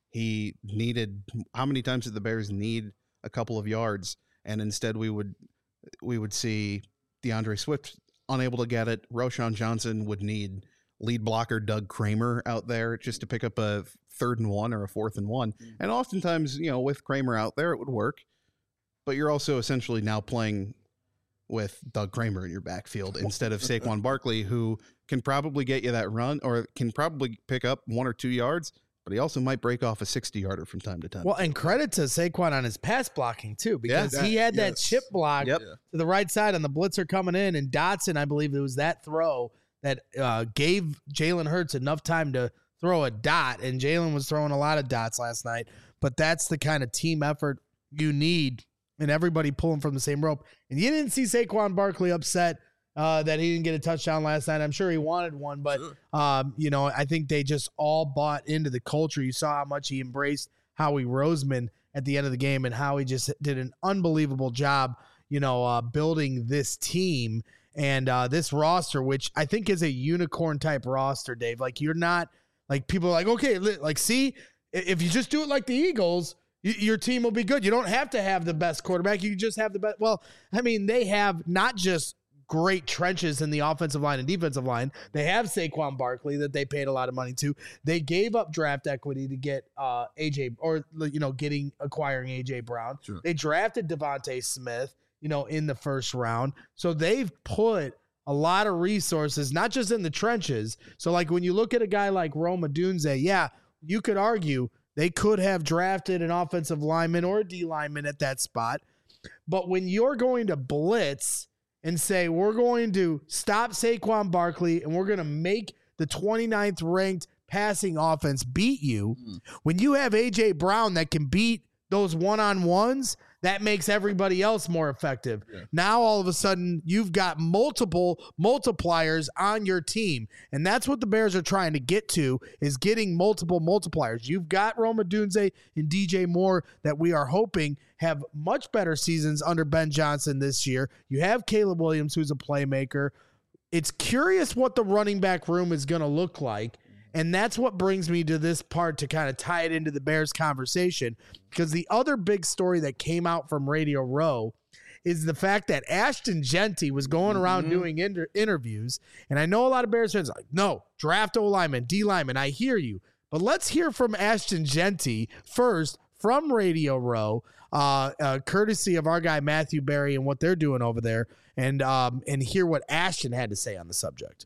he needed, how many times did the Bears need a couple of yards? And instead we would, we would see DeAndre Swift unable to get it. Roschon Johnson would need lead blocker Doug Kramer out there just to pick up a third and one or a fourth and one. And oftentimes, you know, with Kramer out there, it would work. But you're also essentially now playing with Doug Kramer in your backfield instead of Saquon Barkley, who can probably get you that run or can probably pick up one or two yards, but he also might break off a sixty-yarder from time to time. Well, and credit to Saquon on his pass blocking, too, because Yeah, he had that yes. chip block Yep. to the right side on the blitzer coming in, and Dotson, I believe it was that throw that uh, gave Jalen Hurts enough time to throw a dot, and Jalen was throwing a lot of dots last night, but that's the kind of team effort you need and everybody pulling from the same rope. And you didn't see Saquon Barkley upset uh, that he didn't get a touchdown last night. I'm sure he wanted one, but, Sure. um, you know, I think they just all bought into the culture. You saw how much he embraced Howie Roseman at the end of the game and how he just did an unbelievable job, you know, uh, building this team and uh, this roster, which I think is a unicorn type roster, Dave. Like, you're not like people are like, okay, li- like, see, i- if you just do it like the Eagles, y- your team will be good. You don't have to have the best quarterback. You just have the best. Well, I mean, they have not just great trenches in the offensive line and defensive line. They have Saquon Barkley that they paid a lot of money to. They gave up draft equity to get uh, A J or, you know, getting acquiring A J Brown. Sure. They drafted Devontae Smith, you know, in the first round. So they've put a lot of resources, not just in the trenches. So like when you look at a guy like Rome Odunze, yeah, you could argue they could have drafted an offensive lineman or a D lineman at that spot. But when you're going to blitz and say, we're going to stop Saquon Barkley and we're going to make the twenty-ninth ranked passing offense beat you, when you have A J Brown that can beat those one-on-ones, that makes everybody else more effective. Yeah. Now, all of a sudden, you've got multiple multipliers on your team. And that's what the Bears are trying to get to, is getting multiple multipliers. You've got Rome Odunze and D J Moore that we are hoping have much better seasons under Ben Johnson this year. You have Caleb Williams, who's a playmaker. It's curious what the running back room is going to look like. And that's what brings me to this part to kind of tie it into the Bears conversation, because the other big story that came out from Radio Row is the fact that Ashton Jeanty was going around Mhm. doing inter- interviews. And I know a lot of Bears fans are like, no, draft O-lineman, D-lineman. I hear you. But let's hear from Ashton Jeanty first from Radio Row, uh, uh, courtesy of our guy Matthew Berry and what they're doing over there, and um, and hear what Ashton had to say on the subject.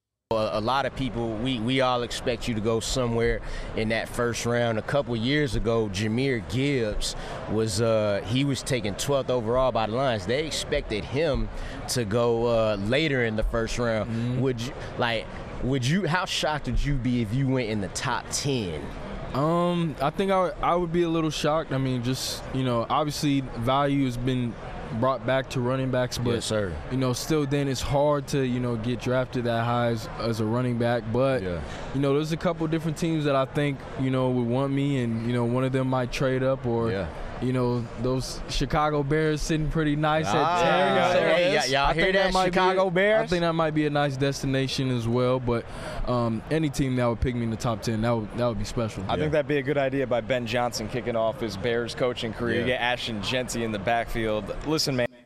A lot of people, we, we all expect you to go somewhere in that first round. A couple years ago, Jahmyr Gibbs was uh, he was taken twelfth overall by the Lions. They expected him to go uh, later in the first round. Mm-hmm. Would you like? Would you? How shocked would you be if you went in the top ten? Um, I think I would, I would be a little shocked. I mean, just you know, obviously value has been brought back to running backs, but Yes, sir. you know, still then it's hard to, you know, get drafted that high as, as a running back. But Yeah. you know, there's a couple different teams that I think, you know, would want me, and you know, one of them might trade up, or Yeah. you know, those Chicago Bears sitting pretty nice Ah, at ten. there you go. Hey, y- y'all I hear think that, might be- Chicago Bears? I think that might be a nice destination as well. But um, any team that would pick me in the top ten, that would that would be special. I think that'd be a good idea by Ben Johnson kicking off his Bears coaching career. Yeah. Get Ashton Jeanty in the backfield. Listen, man.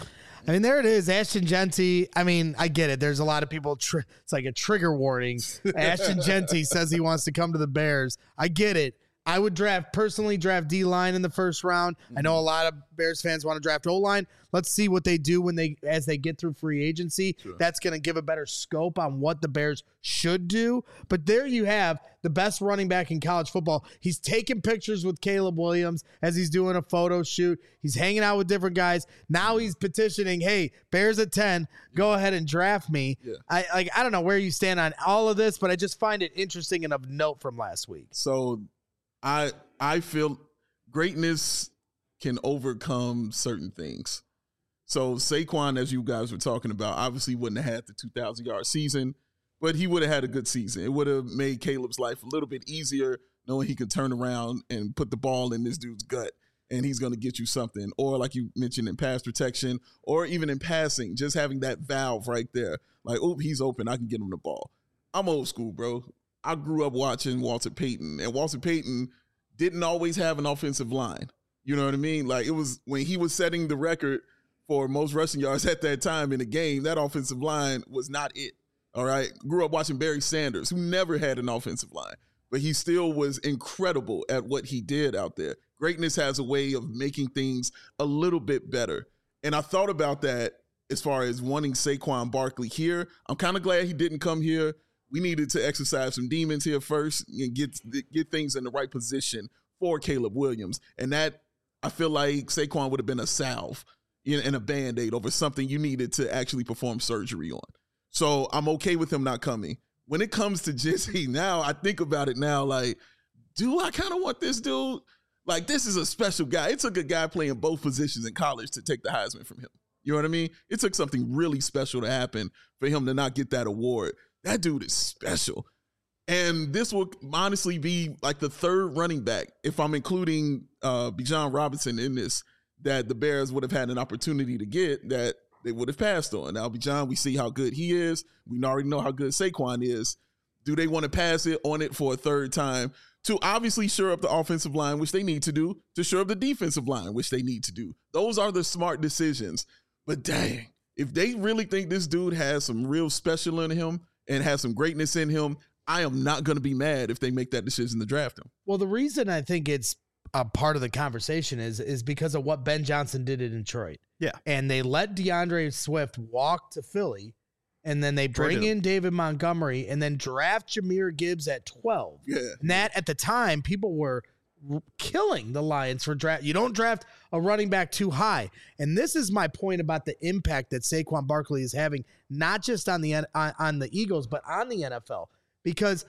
I mean, there it is, Ashton Jeanty. I mean, I get it. There's a lot of people. Tr- it's like a trigger warning. Ashton Jeanty says he wants to come to the Bears. I get it. I would draft, personally draft D-line in the first round. I know a lot of Bears fans want to draft O-line. Let's see what they do when they as they get through free agency. Sure. That's going to give a better scope on what the Bears should do. But there you have the best running back in college football. He's taking pictures with Caleb Williams as he's doing a photo shoot. He's hanging out with different guys. Now he's petitioning, hey, Bears at ten, go ahead and draft me. Yeah. I like I don't know where you stand on all of this, but I just find it interesting and of note from last week. So I I feel greatness can overcome certain things. So Saquon, as you guys were talking about, obviously wouldn't have had the two thousand yard season, but he would have had a good season. It would have made Caleb's life a little bit easier, knowing he could turn around and put the ball in this dude's gut, and he's going to get you something. Or like you mentioned, in pass protection, or even in passing, just having that valve right there. Like, oh, he's open, I can get him the ball. I'm old school, bro. I grew up watching Walter Payton, and Walter Payton didn't always have an offensive line. You know what I mean? Like, it was when he was setting the record for most rushing yards at that time in the game, that offensive line was not it. All right. Grew up watching Barry Sanders, who never had an offensive line, but he still was incredible at what he did out there. Greatness has a way of making things a little bit better. And I thought about that as far as wanting Saquon Barkley here. I'm kind of glad he didn't come here. We needed to exercise some demons here first and get get things in the right position for Caleb Williams. And that, I feel like Saquon would have been a salve and a Band-Aid over something you needed to actually perform surgery on. So I'm okay with him not coming. When it comes to Jesse, now I think about it now, like, do I kind of want this dude? Like, this is a special guy. It took a guy playing both positions in college to take the Heisman from him. You know what I mean? It took something really special to happen for him to not get that award. That dude is special. And this will honestly be like the third running back, if I'm including uh, Bijan Robinson in this, that the Bears would have had an opportunity to get that they would have passed on. Now, Bijan, we see how good he is. We already know how good Saquon is. Do they want to pass it on it for a third time to obviously shore up the offensive line, which they need to do, to shore up the defensive line, which they need to do? Those are the smart decisions. But dang, if they really think this dude has some real special in him and has some greatness in him, I am not going to be mad if they make that decision to draft him. Well, the reason I think it's a part of the conversation is is because of what Ben Johnson did in Detroit. Yeah. And they let DeAndre Swift walk to Philly, and then they bring Traded in him. David Montgomery and then draft Jahmyr Gibbs at twelve. Yeah. And that, at the time, people were r- killing the Lions for draft. You don't draft a running back too high. And this is my point about the impact that Saquon Barkley is having, not just on the N- on, on the Eagles, but on the N F L. Because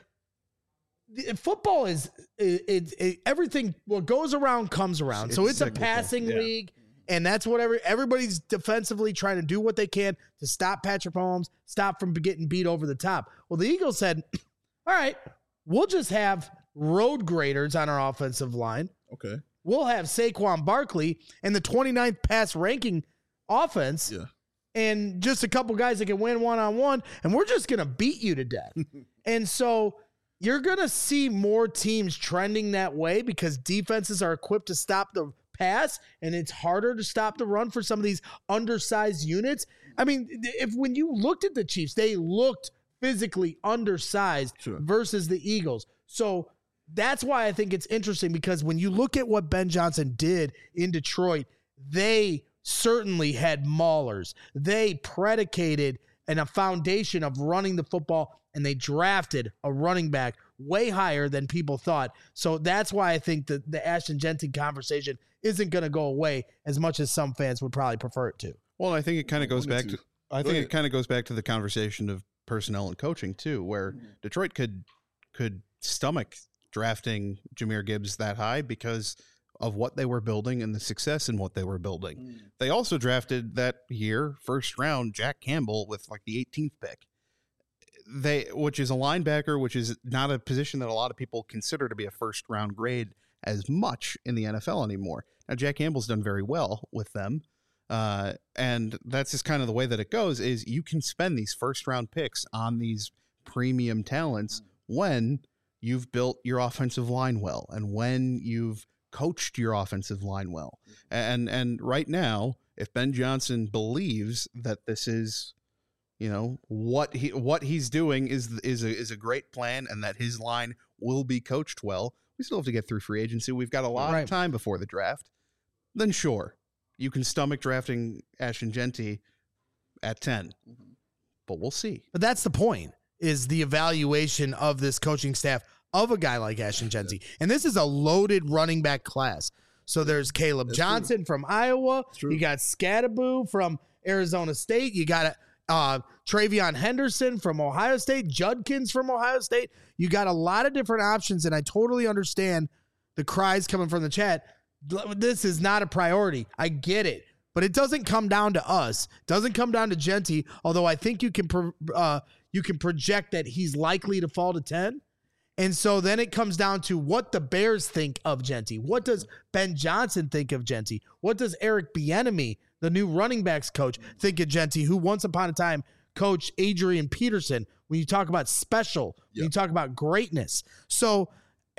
the- football is it, it, it, everything. What goes around comes around. It's so it's cyclical. a passing Yeah. league, and that's what every, everybody's defensively trying to do what they can to stop Patrick Mahomes, stop from getting beat over the top. Well, the Eagles said, "All right, we'll just have road graders on our offensive line. Okay. We'll have Saquon Barkley and the twenty-ninth pass ranking offense." Yeah. And just a couple guys that can win one-on-one, and we're just going to beat you to death. And so you're going to see more teams trending that way because defenses are equipped to stop the pass, and it's harder to stop the run for some of these undersized units. I mean, if when you looked at the Chiefs, they looked physically undersized Sure. versus the Eagles. So that's why I think it's interesting, because when you look at what Ben Johnson did in Detroit, they certainly had maulers. They predicated and a foundation of running the football, and they drafted a running back way higher than people thought. So that's why I think that the Ashton Jeanty conversation isn't going to go away as much as some fans would probably prefer it to. Well, I think it kind of goes wanted back to. to I Go think ahead. it kind of goes back to the conversation of personnel and coaching too, where Detroit could could stomach drafting Jahmyr Gibbs that high because of what they were building and the success in what they were building. They also drafted that year, first round, Jack Campbell with like the eighteenth pick. They, which is a linebacker, which is not a position that a lot of people consider to be a first round grade as much in the N F L anymore. Now, Jack Campbell's done very well with them. Uh, and that's just kind of the way that it goes, is you can spend these first round picks on these premium talents when you've built your offensive line well and when you've coached your offensive line well. And, and right now, if Ben Johnson believes that this is, you know, what he, what he's doing is, is a, is a great plan and that his line will be coached well, we still have to get through free agency. We've got a lot Right. of time before the draft. Then sure, you can stomach drafting Ashton Jeanty at ten, but we'll see. But that's the point, is the evaluation of this coaching staff of a guy like Ashton Jeanty. And this is a loaded running back class. So there's Caleb That's Johnson true. from Iowa. true. You got Scadaboo from Arizona State. You got uh, Travion Henderson from Ohio State. Judkins from Ohio State. You got a lot of different options, and I totally understand the cries coming from the chat. This is not a priority. I get it. But it doesn't come down to us. It doesn't come down to Jeanty, although I think you can pro- uh, you can project that he's likely to fall to ten. And so then it comes down to what the Bears think of Jeanty. What does Ben Johnson think of Jeanty? What does Eric Bieniemy, the new running backs coach, think of Jeanty, who once upon a time coached Adrian Peterson? When you talk about special, when you talk about greatness. So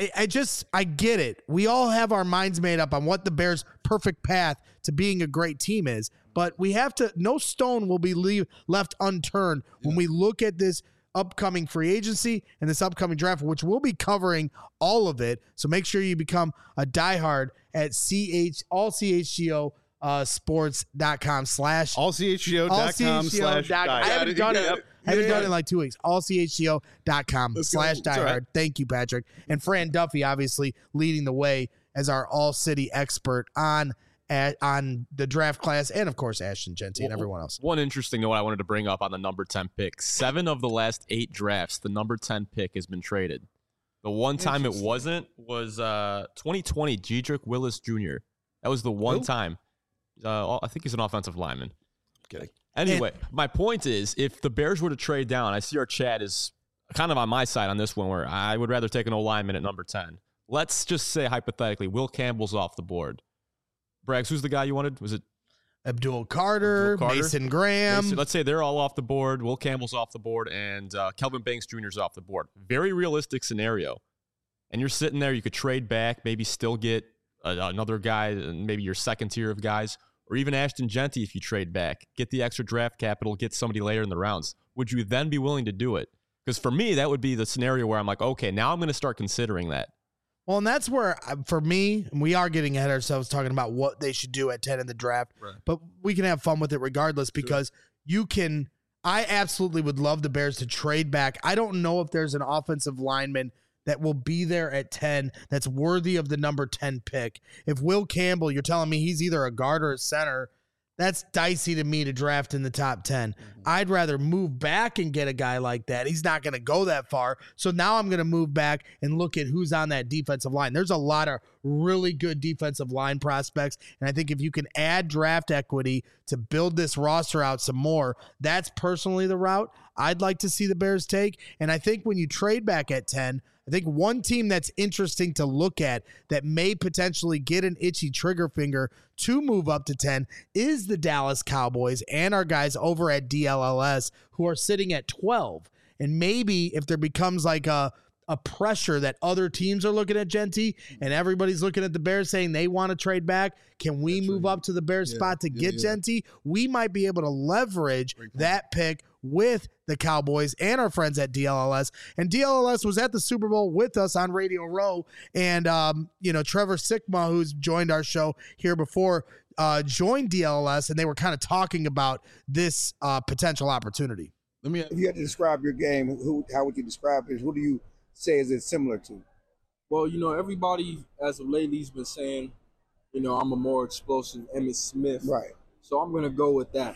I, I just, I get it. We all have our minds made up on what the Bears' perfect path to being a great team is, but we have to, no stone will be leave, left unturned yeah. when we look at this upcoming free agency and this upcoming draft, which we'll be covering all of it. So make sure you become a diehard at CH, all C H G O uh, sports.com slash all C H G O dot com slash I haven't done it. Yep. I haven't yeah. done it in like two weeks. all C H G O dot com slash diehard. Right. Thank you, Patrick. And Fran Duffy, obviously, leading the way as our all-city expert on at, on the draft class, and, of course, Ashton Jeanty and everyone else. One interesting note I wanted to bring up on the number ten pick. Seven of the last eight drafts, the number ten pick has been traded. The one time it wasn't was uh, twenty twenty, Jedrick Willis Junior That was the one Who? time. Uh, I think he's an offensive lineman. Kidding. Anyway, and, my point is, if the Bears were to trade down, I see our chat is kind of on my side on this one, where I would rather take an O-lineman at number ten. Let's just say, hypothetically, Will Campbell's off the board. Braggs, who's the guy you wanted? Was it Abdul Carter, Abdul Carter? Mason Graham? Mason, let's say they're all off the board. Will Campbell's off the board, and uh, Kelvin Banks Junior is off the board. Very realistic scenario. And you're sitting there, you could trade back, maybe still get a, another guy, maybe your second tier of guys, or even Ashton Jeanty if you trade back, get the extra draft capital, get somebody later in the rounds. Would you then be willing to do it? Because for me, that would be the scenario where I'm like, okay, now I'm going to start considering that. Well, and that's where, for me, we are getting ahead of ourselves talking about what they should do at ten in the draft, right. but we can have fun with it regardless because sure. you can, I absolutely would love the Bears to trade back. I don't know if there's an offensive lineman that will be there at ten that's worthy of the number ten pick. If Will Campbell, you're telling me he's either a guard or a center, that's dicey to me to draft in the top ten. Mm-hmm. I'd rather move back and get a guy like that. He's not going to go that far. So now I'm going to move back and look at who's on that defensive line. There's a lot of really good defensive line prospects. And I think if you can add draft equity to build this roster out some more, that's personally the route I'd like to see the Bears take. And I think when you trade back at ten, I think one team that's interesting to look at that may potentially get an itchy trigger finger to move up to ten is the Dallas Cowboys and our guys over at D L L S who are sitting at twelve. And maybe if there becomes like a, a pressure that other teams are looking at Jeanty and everybody's looking at the Bears saying they want to trade back, can we that's move right. up to the Bears yeah, spot to yeah, get yeah. Jeanty? We might be able to leverage that pick with the Cowboys and our friends at D L L S. And D L L S was at the Super Bowl with us on Radio Row. And, um, you know, Trevor Sickma, who's joined our show here before, uh, joined D L L S, and they were kind of talking about this uh, potential opportunity. Let me. If you had to describe your game, who, how would you describe it? Who do you say is it similar to? Well, you know, everybody as of lately has been saying, you know, I'm a more explosive Emmitt Smith. Right. So I'm going to go with that.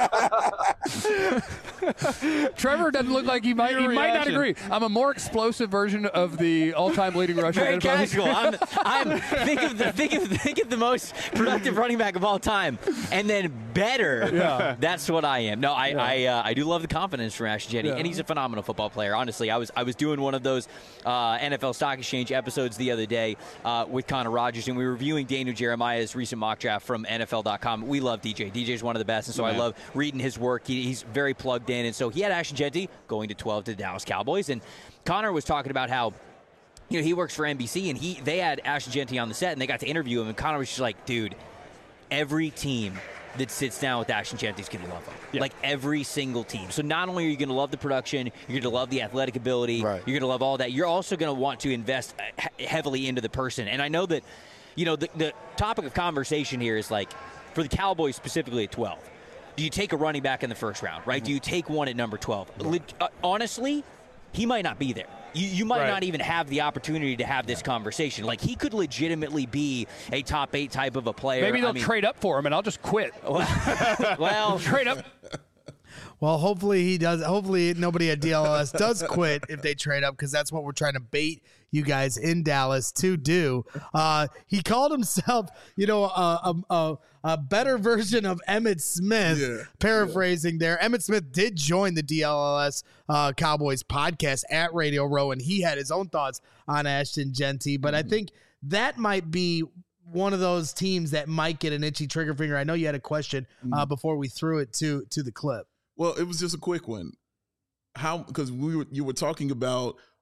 Trevor doesn't look like he might he might not agree. I'm a more explosive version of the all-time leading rusher. Very casual. I'm, I'm think of the think of think of the most productive running back of all time, and then better. Yeah. That's what I am. No, I yeah. I, uh, I do love the confidence from Ashton Jeanty, yeah. and he's a phenomenal football player. Honestly, I was I was doing one of those uh, N F L Stock Exchange episodes the other day uh, with Connor Rogers, and we were reviewing Daniel Jeremiah's recent mock draft from N F L dot com. We love D J. D J's one of the best, and so yeah. I love reading his work. He, he's very plugged in, and so he had Ashton Jeanty going to twelve to the Dallas Cowboys, and Connor was talking about how, you know, he works for N B C, and he they had Ashton Jeanty on the set, and they got to interview him, and Connor was just like, dude, every team that sits down with Ashton Jeanty is going to love him. Yeah. Like every single team. So not only are you going to love the production, you're going to love the athletic ability, right. you're going to love all that, you're also going to want to invest heavily into the person. And I know that, you know, the, the topic of conversation here is like, for the Cowboys specifically at twelve, do you take a running back in the first round, right? Mm-hmm. Do you take one at number twelve? Le- uh, honestly, he might not be there. You, you might right. not even have the opportunity to have this conversation. Like, he could legitimately be a top eight type of a player. Maybe they'll I mean, trade up for him, and I'll just quit. Well, well trade up. Well, hopefully he does. Hopefully nobody at D L L S does quit if they trade up, because that's what we're trying to bait you guys in Dallas to do. Uh, he called himself, you know, a, a, a better version of Emmitt Smith, yeah. paraphrasing yeah. there. Emmitt Smith did join the D L L S uh, Cowboys podcast at Radio Row, and he had his own thoughts on Ashton Jeanty. But mm-hmm. I think that might be one of those teams that might get an itchy trigger finger. I know you had a question uh, mm-hmm. before we threw it to to the clip. Well, it was just a quick one. How, because we were, you were talking about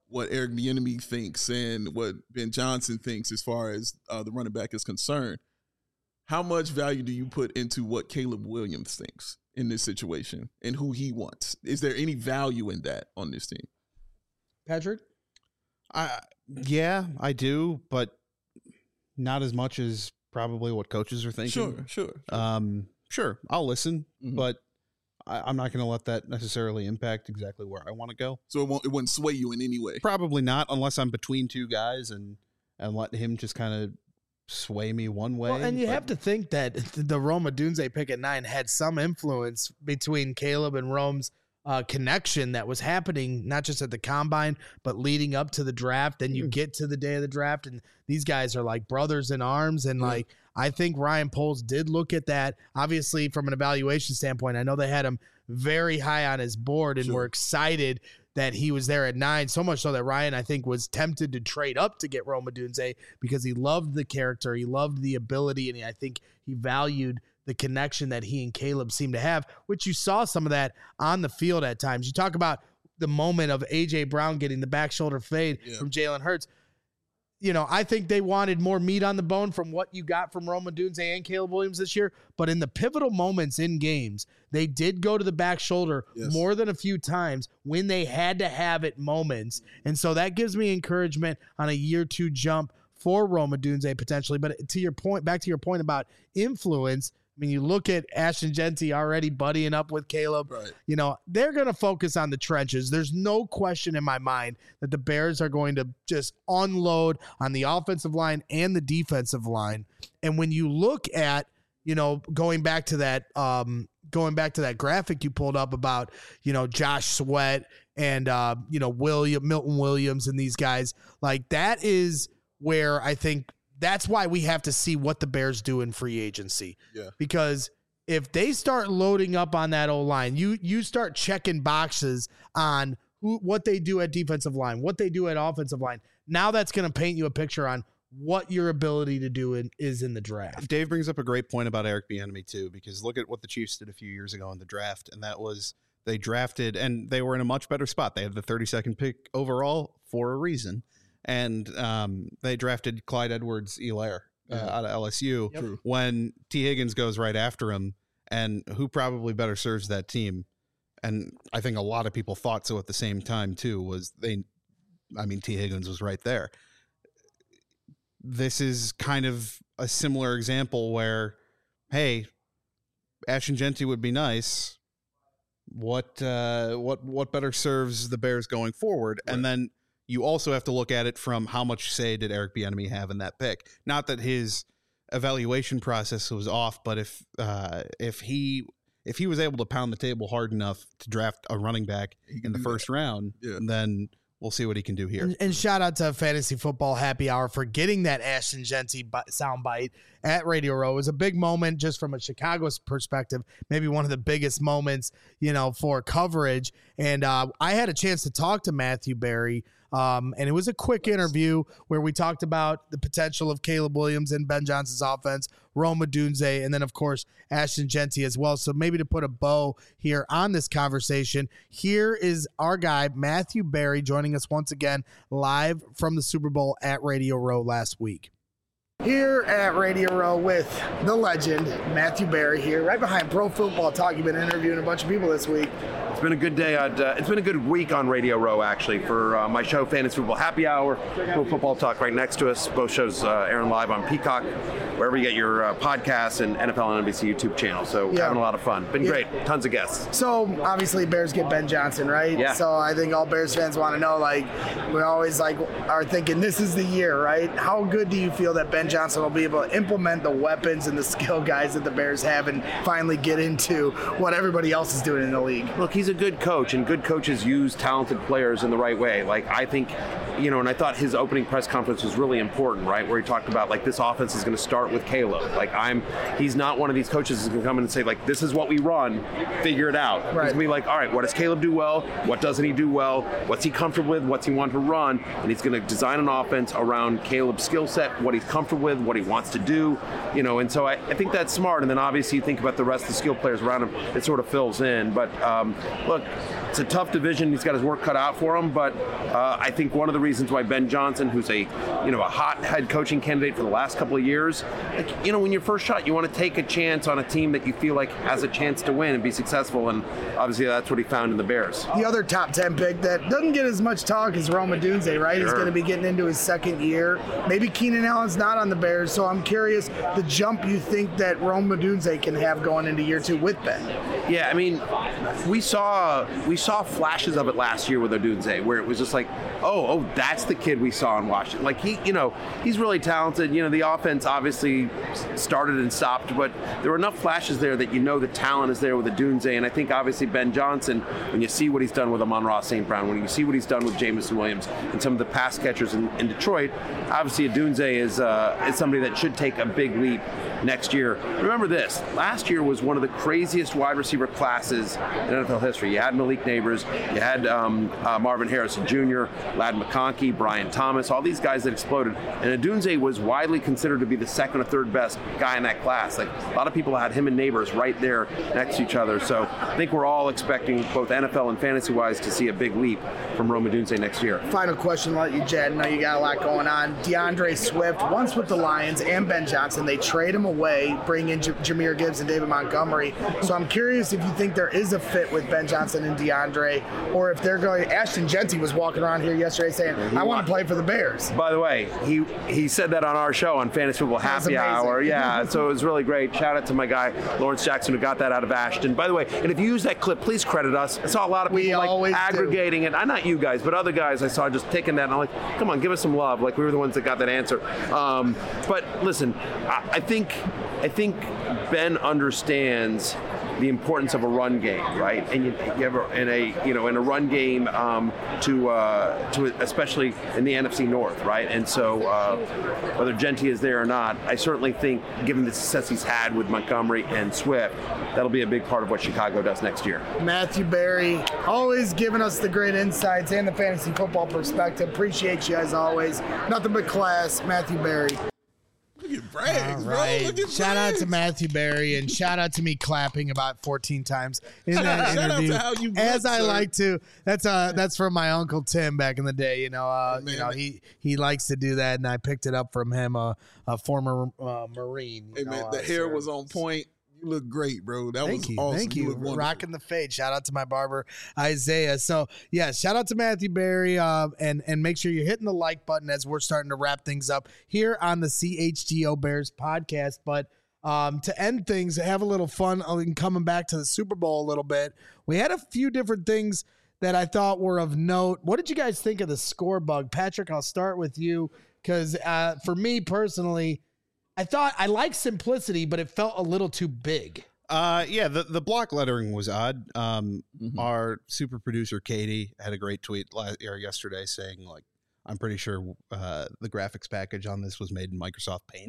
what Eric Bieniemy thinks and what Ben Johnson thinks as far as uh, the running back is concerned. How much value do you put into what Caleb Williams thinks in this situation and who he wants? Is there any value in that on this team? Patrick? I yeah, I do, but not as much as probably what coaches are thinking. Sure, sure. Um, sure, I'll listen, Mhm. but I, I'm not going to let that necessarily impact exactly where I want to go. So it won't it wouldn't sway you in any way. Probably not, unless I'm between two guys and and let him just kind of sway me one way. Well, and you but- have to think that the Rome Odunze pick at nine had some influence between Caleb and Rome's uh, connection that was happening, not just at the combine, but leading up to the draft. Then you get to the day of the draft, and these guys are like brothers in arms. And like, I think Ryan Poles did look at that, obviously, from an evaluation standpoint. I know they had him very high on his board and Sure. were excited that he was there at nine, so much so that Ryan, I think, was tempted to trade up to get Rome Odunze because he loved the character, he loved the ability, and I think he valued the connection that he and Caleb seemed to have, which you saw some of that on the field at times. You talk about the moment of A J Brown getting the back shoulder fade Yeah. from Jalen Hurts. You know, I think they wanted more meat on the bone from what you got from Rome Odunze and Caleb Williams this year. But in the pivotal moments in games, they did go to the back shoulder Yes. more than a few times when they had to have it moments. And so that gives me encouragement on a year two jump for Rome Odunze potentially. But to your point, back to your point about influence, I mean, you look at Ashton Genty already buddying up with Caleb. Right. You know, they're going to focus on the trenches. There's no question in my mind that the Bears are going to just unload on the offensive line and the defensive line. And when you look at, you know, going back to that, um, going back to that graphic you pulled up about, you know, Josh Sweat and, uh, you know, William, Milton Williams and these guys, like that is where I think that's why we have to see what the Bears do in free agency. Yeah. Because if they start loading up on that O-line, you you start checking boxes on who what they do at defensive line, what they do at offensive line. Now that's going to paint you a picture on what your ability to do in, is in the draft. Dave brings up a great point about Eric Bieniemy too, because look at what the Chiefs did a few years ago in the draft, and that was they drafted, and they were in a much better spot. They had the thirty-second pick overall for a reason. And um, they drafted Clyde Edwards-Helaire uh, Yeah. out of L S U Yep. True. when T. Higgins goes right after him. And who probably better serves that team? And I think a lot of people thought so at the same time, too, was they, I mean, T. Higgins was right there. This is kind of a similar example where, hey, Ashton Genty would be nice. What, uh, what, what better serves the Bears going forward? Right. And then you also have to look at it from how much say did Eric Bieniemy have in that pick. Not that his evaluation process was off, but if uh, if he if he was able to pound the table hard enough to draft a running back He can in the do first round, Yeah. then we'll see what he can do here. And, and shout out to Fantasy Football Happy Hour for getting that Ashton Genty bi- soundbite at Radio Row. It was a big moment just from a Chicago's perspective, maybe one of the biggest moments, you know, for coverage. And uh, I had a chance to talk to Matthew Berry, um, and it was a quick interview where we talked about the potential of Caleb Williams and Ben Johnson's offense, Rome Odunze, and then, of course, Ashton Genty as well. So maybe to put a bow here on this conversation, here is our guy, Matthew Berry, joining us once again live from the Super Bowl at Radio Row last week. Here at Radio Row with the legend, Matthew Berry here, right behind Pro Football Talk. You've been interviewing a bunch of people this week. It's been a good day. I'd, uh, it's been a good week on Radio Row, actually, for uh, my show, Fantasy Football Happy Hour, Pro Football Talk right next to us. Both shows uh, airing live on Peacock, wherever you get your uh, podcasts, and N F L and N B C YouTube channel. So Yeah. having a lot of fun. Been Yeah. great. Tons of guests. So obviously Bears get Ben Johnson, right? Yeah. So I think all Bears fans want to know, like, we always like are thinking this is the year, right? How good do you feel that Ben Johnson will be able to implement the weapons and the skill guys that the Bears have and finally get into what everybody else is doing in the league? Look, he's a good coach, and good coaches use talented players in the right way. Like, I think, you know, and I thought his opening press conference was really important, right? Where he talked about, like, this offense is going to start with Caleb. Like, I'm, he's not one of these coaches who's going to come in and say, like, this is what we run, figure it out. He's Right. going to be like, all right, what does Caleb do well? What doesn't he do well? What's he comfortable with? What's he want to run? And he's going to design an offense around Caleb's skill set, what he's comfortable with, what he wants to do, you know, and so I, I think that's smart. And then obviously you think about the rest of the skill players around him, it sort of fills in. But, um, look, it's a tough division. He's got his work cut out for him, but uh, I think one of the reasons why Ben Johnson, who's a you know a hot head coaching candidate for the last couple of years, like, you know, when you're first shot, you want to take a chance on a team that you feel like has a chance to win and be successful, and obviously that's what he found in the Bears. The other top ten pick that doesn't get as much talk is Rome Odunze, right? Sure. He's going to be getting into his second year. Maybe Keenan Allen's not on the Bears, so I'm curious the jump you think that Rome Odunze can have going into year two with Ben. Yeah, I mean, we saw we saw flashes of it last year with Odunze, where it was just like, oh, oh, that's the kid we saw in Washington. Like he, you know, he's really talented. You know, the offense obviously started and stopped, but there were enough flashes there that you know the talent is there with Odunze. And I think obviously Ben Johnson, when you see what he's done with Amon-Ra Saint Brown, when you see what he's done with Jameson Williams and some of the pass catchers in, in Detroit, obviously Odunze is uh, is somebody that should take a big leap next year. Remember this, last year was one of the craziest wide receiver classes in N F L history. You had Malik Neighbors, you had um, uh, Marvin Harrison Junior, Ladd McConkey, Brian Thomas, all these guys that exploded. And Odunze was widely considered to be the second or third best guy in that class. Like a lot of people had him and Neighbors right there next to each other. So I think we're all expecting, both N F L and fantasy-wise, to see a big leap from Rome Odunze next year. Final question, let you, Jed. I know you got a lot going on. DeAndre Swift, once with the Lions and Ben Johnson, they trade him away, bring in J- Jahmyr Gibbs and David Montgomery. So I'm curious if you think there is a fit with Ben Johnson and DeAndre, or if they're going. Ashton Jeanty was walking around here yesterday saying, I want to play for the Bears. By the way, he he said that on our show on Fantasy Football Happy Hour. Yeah, so it was really great. Shout out to my guy, Lawrence Jackson, who got that out of Ashton. By the way, and if you use that clip, please credit us. I saw a lot of people we like aggregating do. it. I not you guys, but other guys I saw just taking that, and I'm like, come on, give us some love. Like we were the ones that got that answer. Um, but listen, I, I think I think Ben understands the importance of a run game, right? And you, you have a, in a you know in a run game um, to uh, to especially in the N F C North, right? And so uh, whether Jeanty is there or not, I certainly think, given the success he's had with Montgomery and Swift, that'll be a big part of what Chicago does next year. Matthew Berry, always giving us the great insights and the fantasy football perspective. Appreciate you as always. Nothing but class, Matthew Berry. Look at Braggs, All right. bro. Look at shout Braggs. out to Matthew Berry, and shout out to me clapping about fourteen times in that Shout out interview. to how you as look, I sir. like to. That's uh that's from my uncle Tim back in the day. You know, uh, Man, you know man. he he likes to do that, and I picked it up from him, uh, a former uh, Marine. Hey, you man, know, the uh, hair so- was on point. You look great, bro. That Thank was you. awesome. Thank you. look wonderful. Rocking the fade. Shout out to my barber, Isaiah. So, yeah, shout out to Matthew Berry. Uh, and, and make sure you're hitting the like button as we're starting to wrap things up here on the C H G O Bears podcast. But um, to end things, have a little fun in coming back to the Super Bowl a little bit. We had a few different things that I thought were of note. What did you guys think of the score bug? Patrick, I'll start with you because uh, for me personally, I thought I liked simplicity, but it felt a little too big. Uh, yeah, the, the block lettering was odd. Um, mm-hmm. Our super producer, Katie, had a great tweet last, or yesterday saying, like, I'm pretty sure uh, the graphics package on this was made in Microsoft Paint.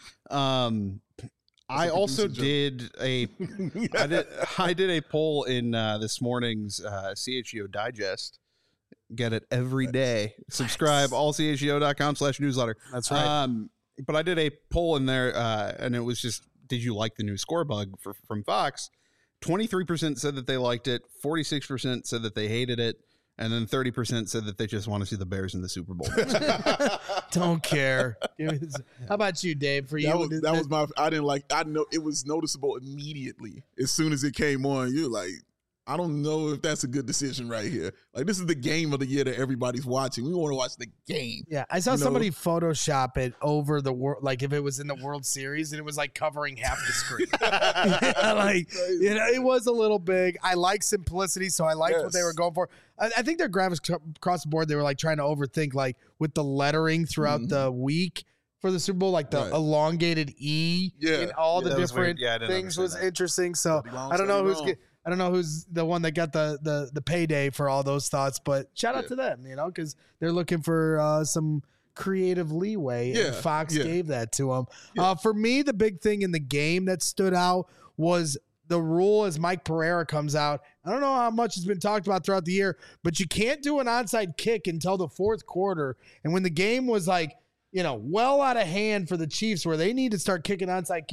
Um, I also did a, I did, I did a poll in uh, this morning's uh, C H G O Digest. Get it every day. Subscribe, all C H G O dot com slash newsletter. That's right. Um, but I did a poll in there, uh, and it was just, did you like the new score bug for, from Fox? twenty-three percent said that they liked it. forty-six percent said that they hated it. And then thirty percent said that they just want to see the Bears in the Super Bowl. Don't care. How about you, Dave? For you, that was, that was my. I didn't like. I know it was noticeable immediately as soon as it came on. You're like, I don't know if that's a good decision right here. Like, this is the game of the year that everybody's watching. We want to watch the game. Yeah, I saw you know? somebody Photoshop it over the world, like if it was in the World Series and it was like covering half the screen. yeah, like, you know, it was a little big. I like simplicity, so I liked Yes. what they were going for. I, I think their graphics c- across the board, they were like trying to overthink, like with the lettering throughout Mhm. the week for the Super Bowl, like the Right. elongated E Yeah. in all Yeah, the that was different weird. Yeah, I didn't things was understand that. interesting. So Study wrong, I don't know study who's wrong. get, I don't know who's the one that got the the the payday for all those thoughts, but shout out Yeah. to them, you know, because they're looking for uh, some creative leeway, Yeah, and Fox yeah. gave that to them. Yeah. Uh, for me, the big thing in the game that stood out was the rule as Mike Pereira comes out. I don't know how much has been talked about throughout the year, but you can't do an onside kick until the fourth quarter. And when the game was like, you know, well out of hand for the Chiefs where they need to start kicking onside kicks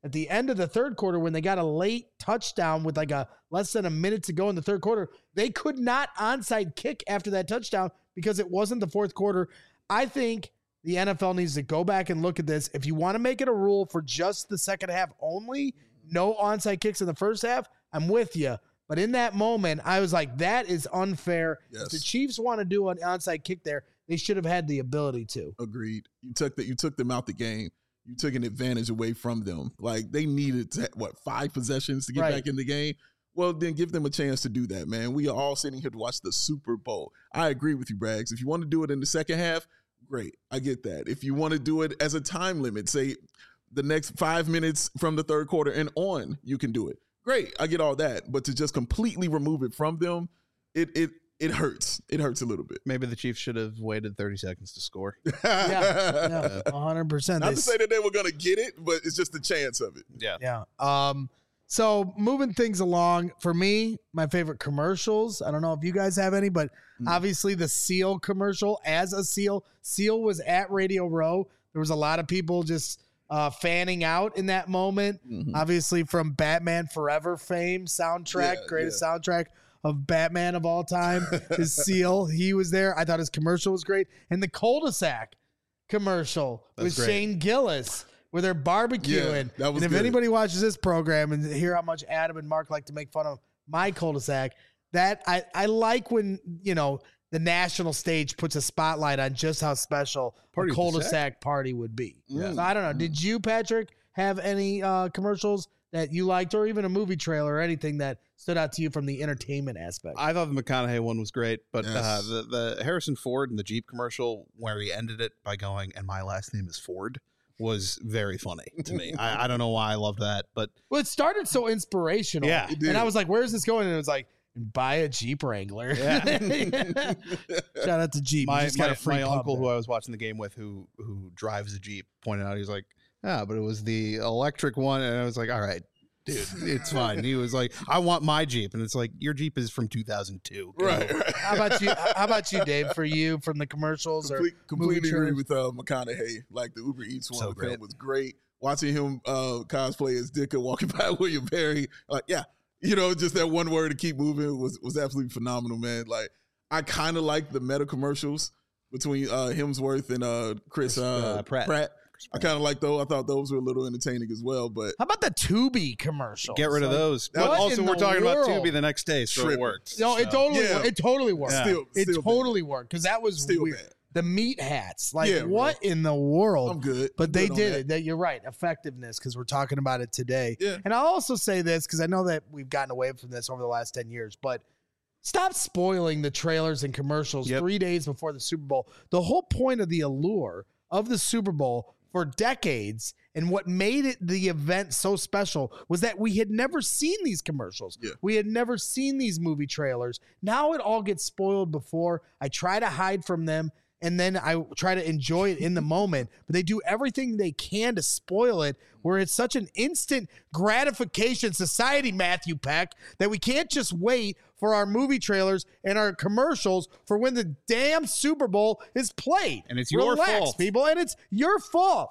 at the end of the third quarter when they got a late touchdown with like a less than a minute to go in the third quarter, they could not onside kick after that touchdown because it wasn't the fourth quarter. I think the N F L needs to go back and look at this. If you want to make it a rule for just the second half only, no onside kicks in the first half, I'm with you. But in that moment, I was like, that is unfair. Yes. If the Chiefs want to do an onside kick there, they should have had the ability to. Agreed. You took that. You took them out the game. You took an advantage away from them. Like they needed to, what five possessions to get Right. back in the game. Well, then give them a chance to do that, man. We are all sitting here to watch the Super Bowl. I agree with you, Braggs. If you want to do it in the second half, great. I get that. If you want to do it as a time limit, say the next five minutes from the third quarter and on, you can do it. Great. I get all that. But to just completely remove it from them, it it it hurts. It hurts a little bit. Maybe the Chiefs should have waited thirty seconds to score. Yeah, yeah, one hundred percent. Not They to say that they were going to get it, but it's just the chance of it. Yeah. Yeah. Um, so moving things along, for me, my favorite commercials, I don't know if you guys have any, but Mm. obviously the Seal commercial as a Seal. Seal was at Radio Row. There was a lot of people just uh, fanning out in that moment. Mm-hmm. Obviously from Batman Forever fame soundtrack, Yeah, greatest yeah. soundtrack of Batman of all time is Seal. He was there. I thought his commercial was great. And the cul-de-sac commercial That's with great. Shane Gillis where they're barbecuing. that was and if good. anybody watches this program and hear how much Adam and Mark like to make fun of my cul-de-sac, that I, I like when, you know, the national stage puts a spotlight on just how special Party a with the cul-de-sac party would be. Yeah. So I don't know. Did you, Patrick, have any uh, commercials that you liked or even a movie trailer or anything that stood out to you from the entertainment aspect? I thought the McConaughey one was great, but uh, Yes. the, the Harrison Ford and the Jeep commercial where he ended it by going, and my last name is Ford, was very funny to me. I, I don't know why I love that, but Well, it started so inspirational. Yeah. It did. And I was like, where's this going? And it was like, buy a Jeep Wrangler. Yeah. Shout out to Jeep. You my, just got my, a free my pub uncle there. who I was watching the game with who who drives a Jeep pointed out, he's like, yeah, but it was the electric one. And I was like, all right, dude, it's fine. He was like, I want my Jeep. And it's like, your Jeep is from two thousand two. Right, right. How about you? How about you, Dave? For you, from the commercials or Complete, completely movie agree trailers? with uh, McConaughey. Like the Uber Eats one So with great. him was great. Watching him uh, cosplay as Dicker walking by William Perry, like yeah, you know, just that one word to keep moving was was absolutely phenomenal, man. Like I kind of like the meta commercials between uh, Hemsworth and uh, Chris uh, uh, Pratt. Pratt. I kind of like those. I thought those were a little entertaining as well. But How about the Tubi commercial? Get rid of those. But what also, in we're the talking world? about Tubi the next day, so Tripping. it worked. No, it So- totally, Yeah. wor- it totally worked. Yeah. still, It still totally worked because that was Still weird. bad. The meat hats, like Yeah, bro. what in the world? I'm good. But I'm they good on did that. it. That you're right. Effectiveness, because we're talking about it today. Yeah. And I'll also say this because I know that we've gotten away from this over the last ten years, but stop spoiling the trailers and commercials Yep. three days before the Super Bowl. The whole point of the allure of the Super Bowl for decades and what made it the event so special was that we had never seen these commercials. Yeah. We had never seen these movie trailers. Now it all gets spoiled before. I try to hide from them and then I try to enjoy it in the moment, but they do everything they can to spoil it where it's such an instant gratification society, Matthew Peck, that we can't just wait for our movie trailers and our commercials for when the damn Super Bowl is played. And it's your Relax, fault. people, and it's your fault.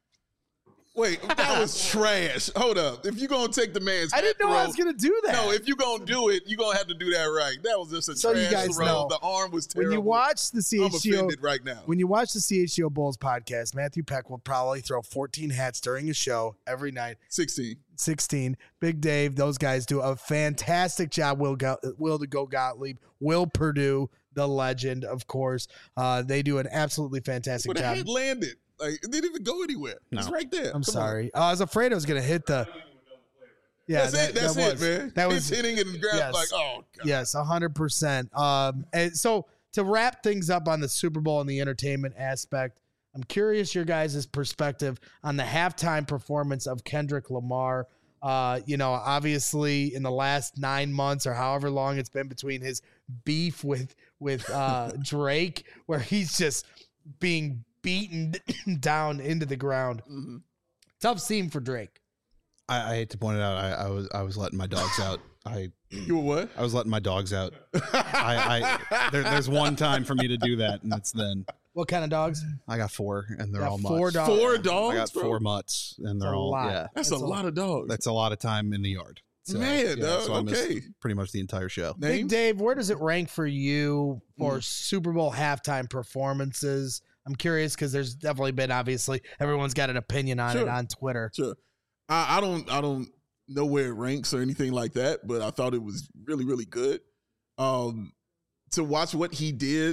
Wait, that was trash. Hold up. If you're gonna take the man's I didn't hat know I throw- was going to do that. No, if you're gonna do it, you're gonna have to do that right. That was just a So trash you guys throw. know, The arm was when terrible. you watch the C I'm H G O, offended right now. when you watch the C H G O Bulls podcast, Matthew Peck will probably throw fourteen hats during his show every night. sixteen. sixteen. Big Dave, those guys do a fantastic job. Will Go, Will to Go Gottlieb, Will Purdue, the legend, of course. Uh, they do an absolutely fantastic But the job. head landed. Like it didn't even go anywhere. It's No. right there. I'm Come sorry. Uh, I was afraid I was going to hit the. Yeah, That's that- it. That's that it, was- man. That It's was hitting and grab yes. like, oh god. Yes, one hundred percent. Um, and so to wrap things up on the Super Bowl and the entertainment aspect, I'm curious your guys' perspective on the halftime performance of Kendrick Lamar. Uh, you know, obviously in the last nine months or however long it's been between his beef with with uh, Drake, where he's just being beaten down into the ground. Mm-hmm. Tough scene for Drake. I, I hate to point it out. I, I was I was letting my dogs out. I You were what? I was letting my dogs out. I, I there, there's one time for me to do that, and it's then. What kind of dogs? I got four, and they're Got all four mutts. dogs. Four I dogs, got bro? four mutts, and That's they're a all lot. yeah. That's, That's a a lot of dogs. That's a lot of time in the yard. So, Man, yeah, dog, so I missed okay. pretty much the entire show. Big Names? Dave, where does it rank for you for Mm. Super Bowl halftime performances? I'm curious because there's definitely been, obviously, everyone's got an opinion on it Sure. on Twitter. Sure. I, I don't I don't know where it ranks or anything like that, but I thought it was really, really good. Um to watch what he did,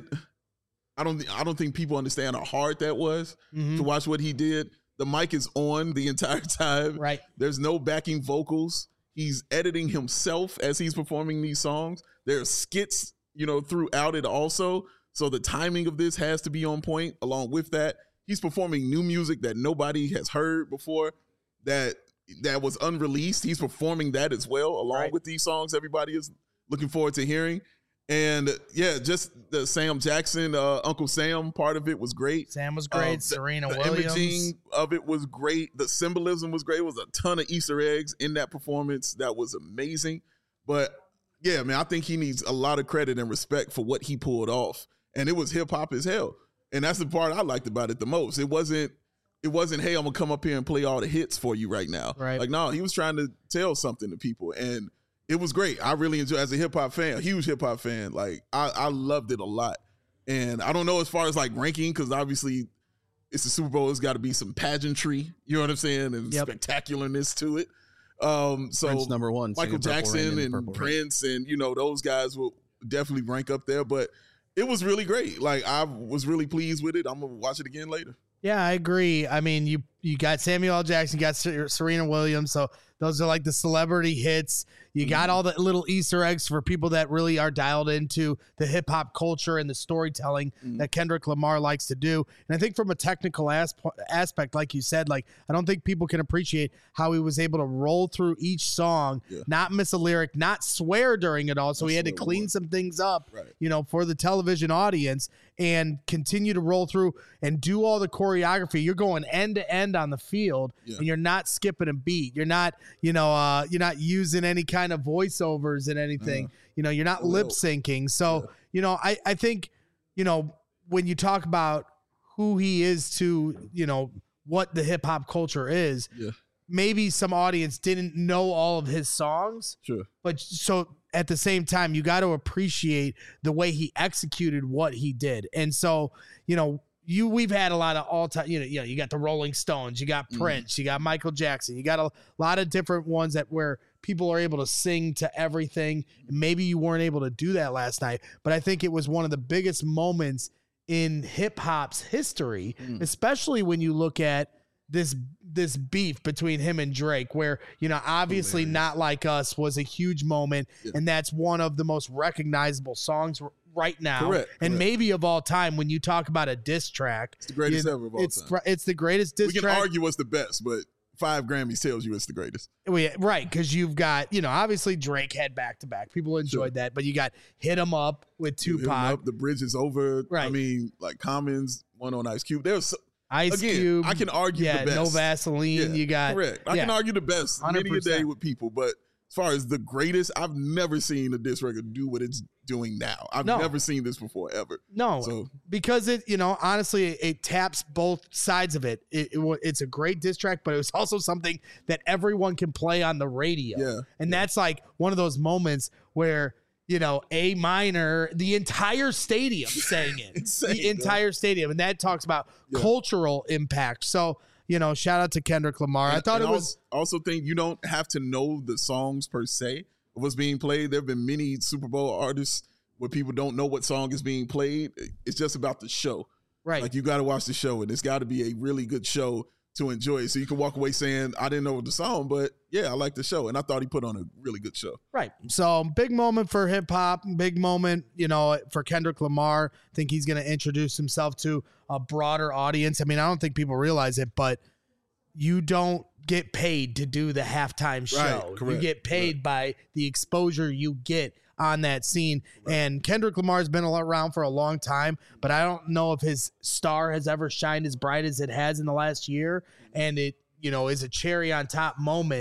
I don't I don't think people understand how hard that was Mhm. to watch what he did. The mic is on the entire time. Right. There's no backing vocals. He's editing himself as he's performing these songs. There are skits, you know, throughout it also. So the timing of this has to be on point. Along with that, he's performing new music that nobody has heard before, that that was unreleased. He's performing that as well, along Right. with these songs everybody is looking forward to hearing. And yeah, just the Sam Jackson, uh, Uncle Sam part of it was great. Sam was great. Um, the- Serena the Williams. imaging of it was great. The symbolism was great. It was a ton of Easter eggs in that performance. That was amazing. But yeah, man, I think he needs a lot of credit and respect for what he pulled off. And it was hip hop as hell. And that's the part I liked about it the most. It wasn't, it wasn't, hey, I'm gonna come up here and play all the hits for you right now. Right. Like, no, he was trying to tell something to people. And it was great. I really enjoyed, as a hip hop fan, a huge hip hop fan. Like, I, I loved it a lot. And I don't know as far as like ranking, because obviously it's the Super Bowl. It's got to be some pageantry, you know what I'm saying, and Yep. spectacularness to it. Um, so Prince number one, Michael singing Purple Rain Jackson in and Purple Rain. Prince, and you know those guys will definitely rank up there. But it was really great. Like, I was really pleased with it. I'm gonna watch it again later. Yeah, I agree. I mean, you you got Samuel L. Jackson, you got Ser- Serena Williams, so those are like the celebrity hits. You got all the little Easter eggs for people that really are dialed into the hip hop culture and the storytelling that Kendrick Lamar likes to do. And I think from a technical asp- aspect, like you said, like I don't think people can appreciate how he was able to roll through each song, Yeah. not miss a lyric, not swear during it all. So Not he had to swear clean once. some things up, Right. you know, for the television audience and continue to roll through and do all the choreography. You're going end to end on the field Yeah. and you're not skipping a beat. You're not, you know, uh, you're not using any kind of voiceovers and anything. Uh, you know, you're not well, lip syncing. So, yeah. you know, I, I think, you know, when you talk about who he is to, you know, what the hip hop culture is, Yeah. maybe some audience didn't know all of his songs. Sure. But so at the same time, you got to appreciate the way he executed what he did. And so, you know, you we've had a lot of all time, you know, you know, you got the Rolling Stones, you got Prince, you got Michael Jackson, you got a lot of different ones that where people are able to sing to everything. Maybe you weren't able to do that last night, but I think it was one of the biggest moments in hip hop's history, especially when you look at this this beef between him and Drake, where, you know, obviously Not Like Us was a huge moment, Yeah. and that's one of the most recognizable songs r- right now, Correct, and correct. maybe of all time. When you talk about a diss track, It's the greatest you- ever of all it's time. fr- it's the greatest diss We can track. argue what's the best, but five Grammys tells you it's the greatest. We- right, because you've got, you know, obviously Drake had back to back. People enjoyed that, but you got Hit 'Em Up with You hit 'em Tupac, up, the bridge is over. I Right. mean, like Commons, one on Ice Cube. There's so, Ice again, Cube. I can argue yeah, the best. No Vaseline. Yeah, you got correct. I yeah. can argue the best one many hundred a day percent. with people, but as far as the greatest, I've never seen a diss record do what it's doing now. I've No. never seen this before ever. No, So because it, you know, honestly, it, it taps both sides of it. It, it. wa- It's a great diss track, but it was also something that everyone can play on the radio. Yeah, and that's like one of those moments where, you know, A minor, the entire stadium sang it, Insane, the bro. entire stadium, and that talks about Yeah. cultural impact. So, you know, shout out to Kendrick Lamar. I And- thought and it was. also, also think you don't have to know the songs per se of what's being played. There have been many Super Bowl artists where people don't know what song is being played. It's just about the show. Right. Like, you got to watch the show, and it's got to be a really good show to enjoy it. So you can walk away saying, I didn't know the song, but yeah, I like the show. And I thought he put on a really good show. Right. So big moment for hip hop, big moment, you know, for Kendrick Lamar. I think he's going to introduce himself to a broader audience. I mean, I don't think people realize it, but you don't get paid to do the halftime show. Right, You correct, get paid by the exposure you get on that scene. And Kendrick Lamar's been around for a long time, but I don't know if his star has ever shined as bright as it has in the last year. And it, you know, is a cherry on top moment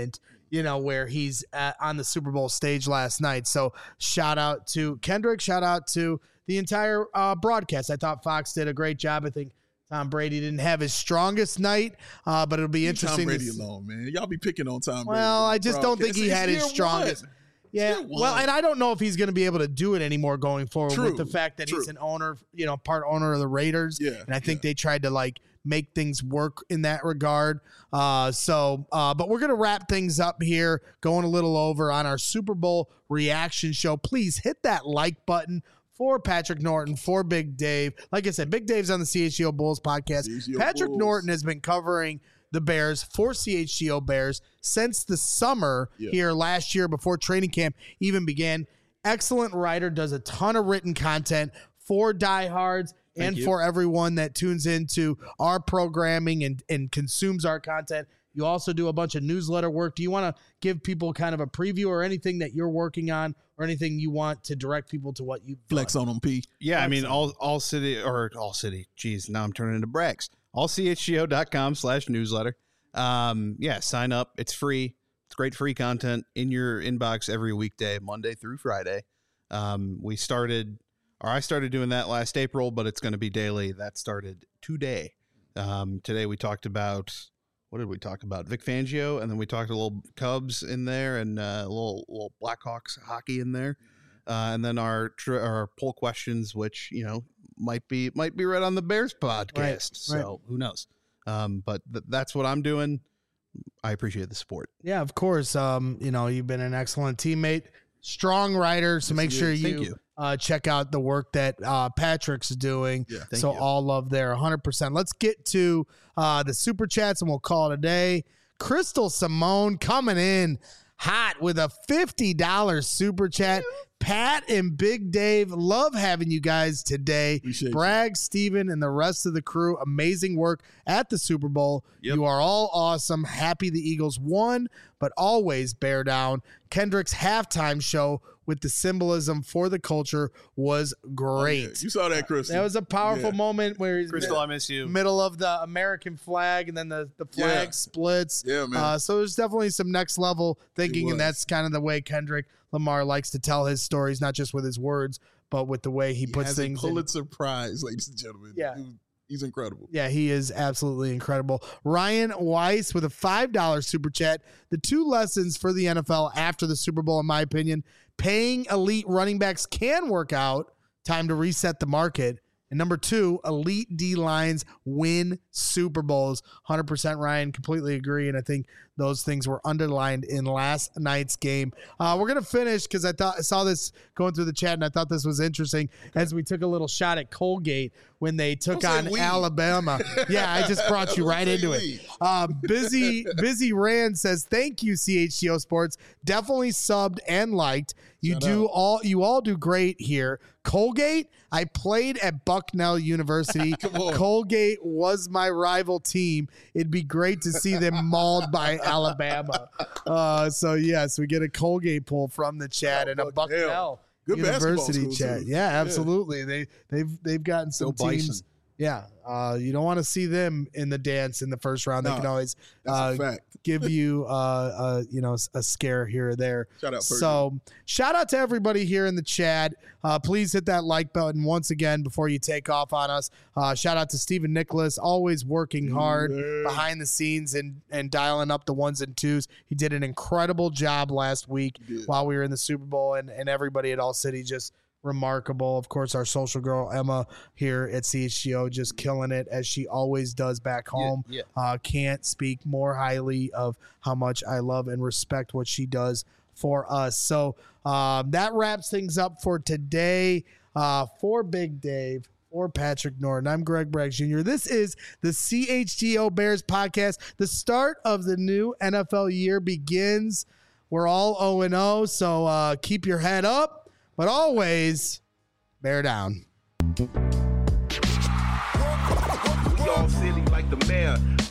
you know, where he's at, on the Super Bowl stage last night. So shout out to Kendrick. Shout out to the entire uh, broadcast. I thought Fox did a great job. I think Tom Brady didn't have his strongest night, uh, but it'll be Leave interesting. Tom Brady to alone, man. Y'all be picking on Tom Brady. Well, I just don't think he It's- had it's his year strongest. one. Yeah, Year well, one. and I don't know if he's going to be able to do it anymore going forward True, with the fact that true. he's an owner, you know, part owner of the Raiders. Yeah, and I think they tried to like make things work in that regard. Uh, so, uh, but we're going to wrap things up here, going a little over on our Super Bowl reaction show. Please hit that like button for Patrick Norton, for Big Dave. Like I said, Big Dave's on the C H G O Bulls podcast. C H G O Patrick Bulls. Norton has been covering the Bears for C H G O Bears since the summer Yeah. here last year before training camp even began. Excellent writer, does a ton of written content for diehards Thank and you. for everyone that tunes into our programming and, and consumes our content. You also do a bunch of newsletter work. Do you want to give people kind of a preview or anything that you're working on or anything you want to direct people to what you Flex on them, P. Yeah, I mean, Flex on all all city or all city. Geez, now I'm turning into Brax. all c h g o dot com slash newsletter. Um, yeah, sign up. It's free. It's great free content in your inbox every weekday, Monday through Friday. Um, we started, or I started doing that last April, but it's going to be daily. That started today. Um, today we talked about, what did we talk about? Vic Fangio, and then we talked a little Cubs in there and uh, a little little Blackhawks hockey in there. Uh, and then our tr- our poll questions, which you know might be might be read on the Bears podcast. Right, So right. who knows? Um, but th- that's what I'm doing. I appreciate the support. Yeah, of course. Um, you know, you've been an excellent teammate, strong writer. So make you. sure Thank you, you. Uh, check out the work that uh, Patrick's doing. Yeah, thank so you. all love there, one hundred percent. Let's get to uh, the super chats and we'll call it a day. Crystal Simone coming in hot with a fifty dollars super chat. Pat and Big Dave, love having you guys today. Appreciate you. Bragg, Steven, and the rest of the crew, amazing work at the Super Bowl. Yep. You are all awesome. Happy the Eagles won, but always bear down. Kendrick's halftime show with the symbolism for the culture was great. Oh, You saw that, Chris. That was a powerful Yeah. moment where he's Crystal, I miss you. middle of the American flag and then the, the flag Yeah. splits. Yeah, man. Uh, so there's definitely some next level thinking, It and was. that's kind of the way Kendrick Lamar likes to tell his stories, not just with his words, but with the way he, He puts has things a in. Pulitzer Prize, ladies and gentlemen. Yeah. Dude, he's incredible. Yeah, he is absolutely incredible. Ryan Weiss with a five dollars super chat. The two lessons for the N F L after the Super Bowl, in my opinion, paying elite running backs can work out. Time to reset the market. And number two, elite D lines win Super Bowls. one hundred percent Ryan, completely agree. And I think those things were underlined in last night's game. Uh, we're going to finish because I thought I saw this going through the chat and I thought this was interesting as we took a little shot at Colgate when they took Don't say on we. Alabama. Yeah, I just brought you Don't right say into it. we. Uh, busy, busy Rand says, thank you, C H G O Sports. Definitely subbed and liked. You Shout do out. all you all do great here. Colgate, I played at Bucknell University. on. Colgate was my rival team. It'd be great to see them mauled by Alabama. Uh, so yes, we get a Colgate pull from the chat Oh, and a Bucknell. Bucknell Good basketball University school, chat. too. Yeah, Yeah. absolutely. They they've they've gotten some Go Bison. teams. Yeah, uh, you don't want to see them in the dance in the first round. They Nah, can always That's uh, a fact. give you, uh, uh, you know, a scare here or there. Shout out, Purdue. So, shout out to everybody here in the chat. Uh, please hit that like button once again before you take off on us. Uh, shout out to Stephen Nicholas, always working hard Yeah. behind the scenes and and dialing up the ones and twos. He did an incredible job last week He did. while we were in the Super Bowl, and and everybody at All City just remarkable. Of course, our social girl Emma here at C H G O just killing it as she always does back home. yeah. Uh, can't speak more highly of how much I love and respect what she does for us. So um, that wraps things up for today. Uh, for Big Dave, for Patrick Norton, I'm Greg Bragg Junior This is the C H G O Bears podcast. The start of the new N F L year begins. We're all oh and oh, so uh, keep your head up. But always bear down. We all silly like the mayor.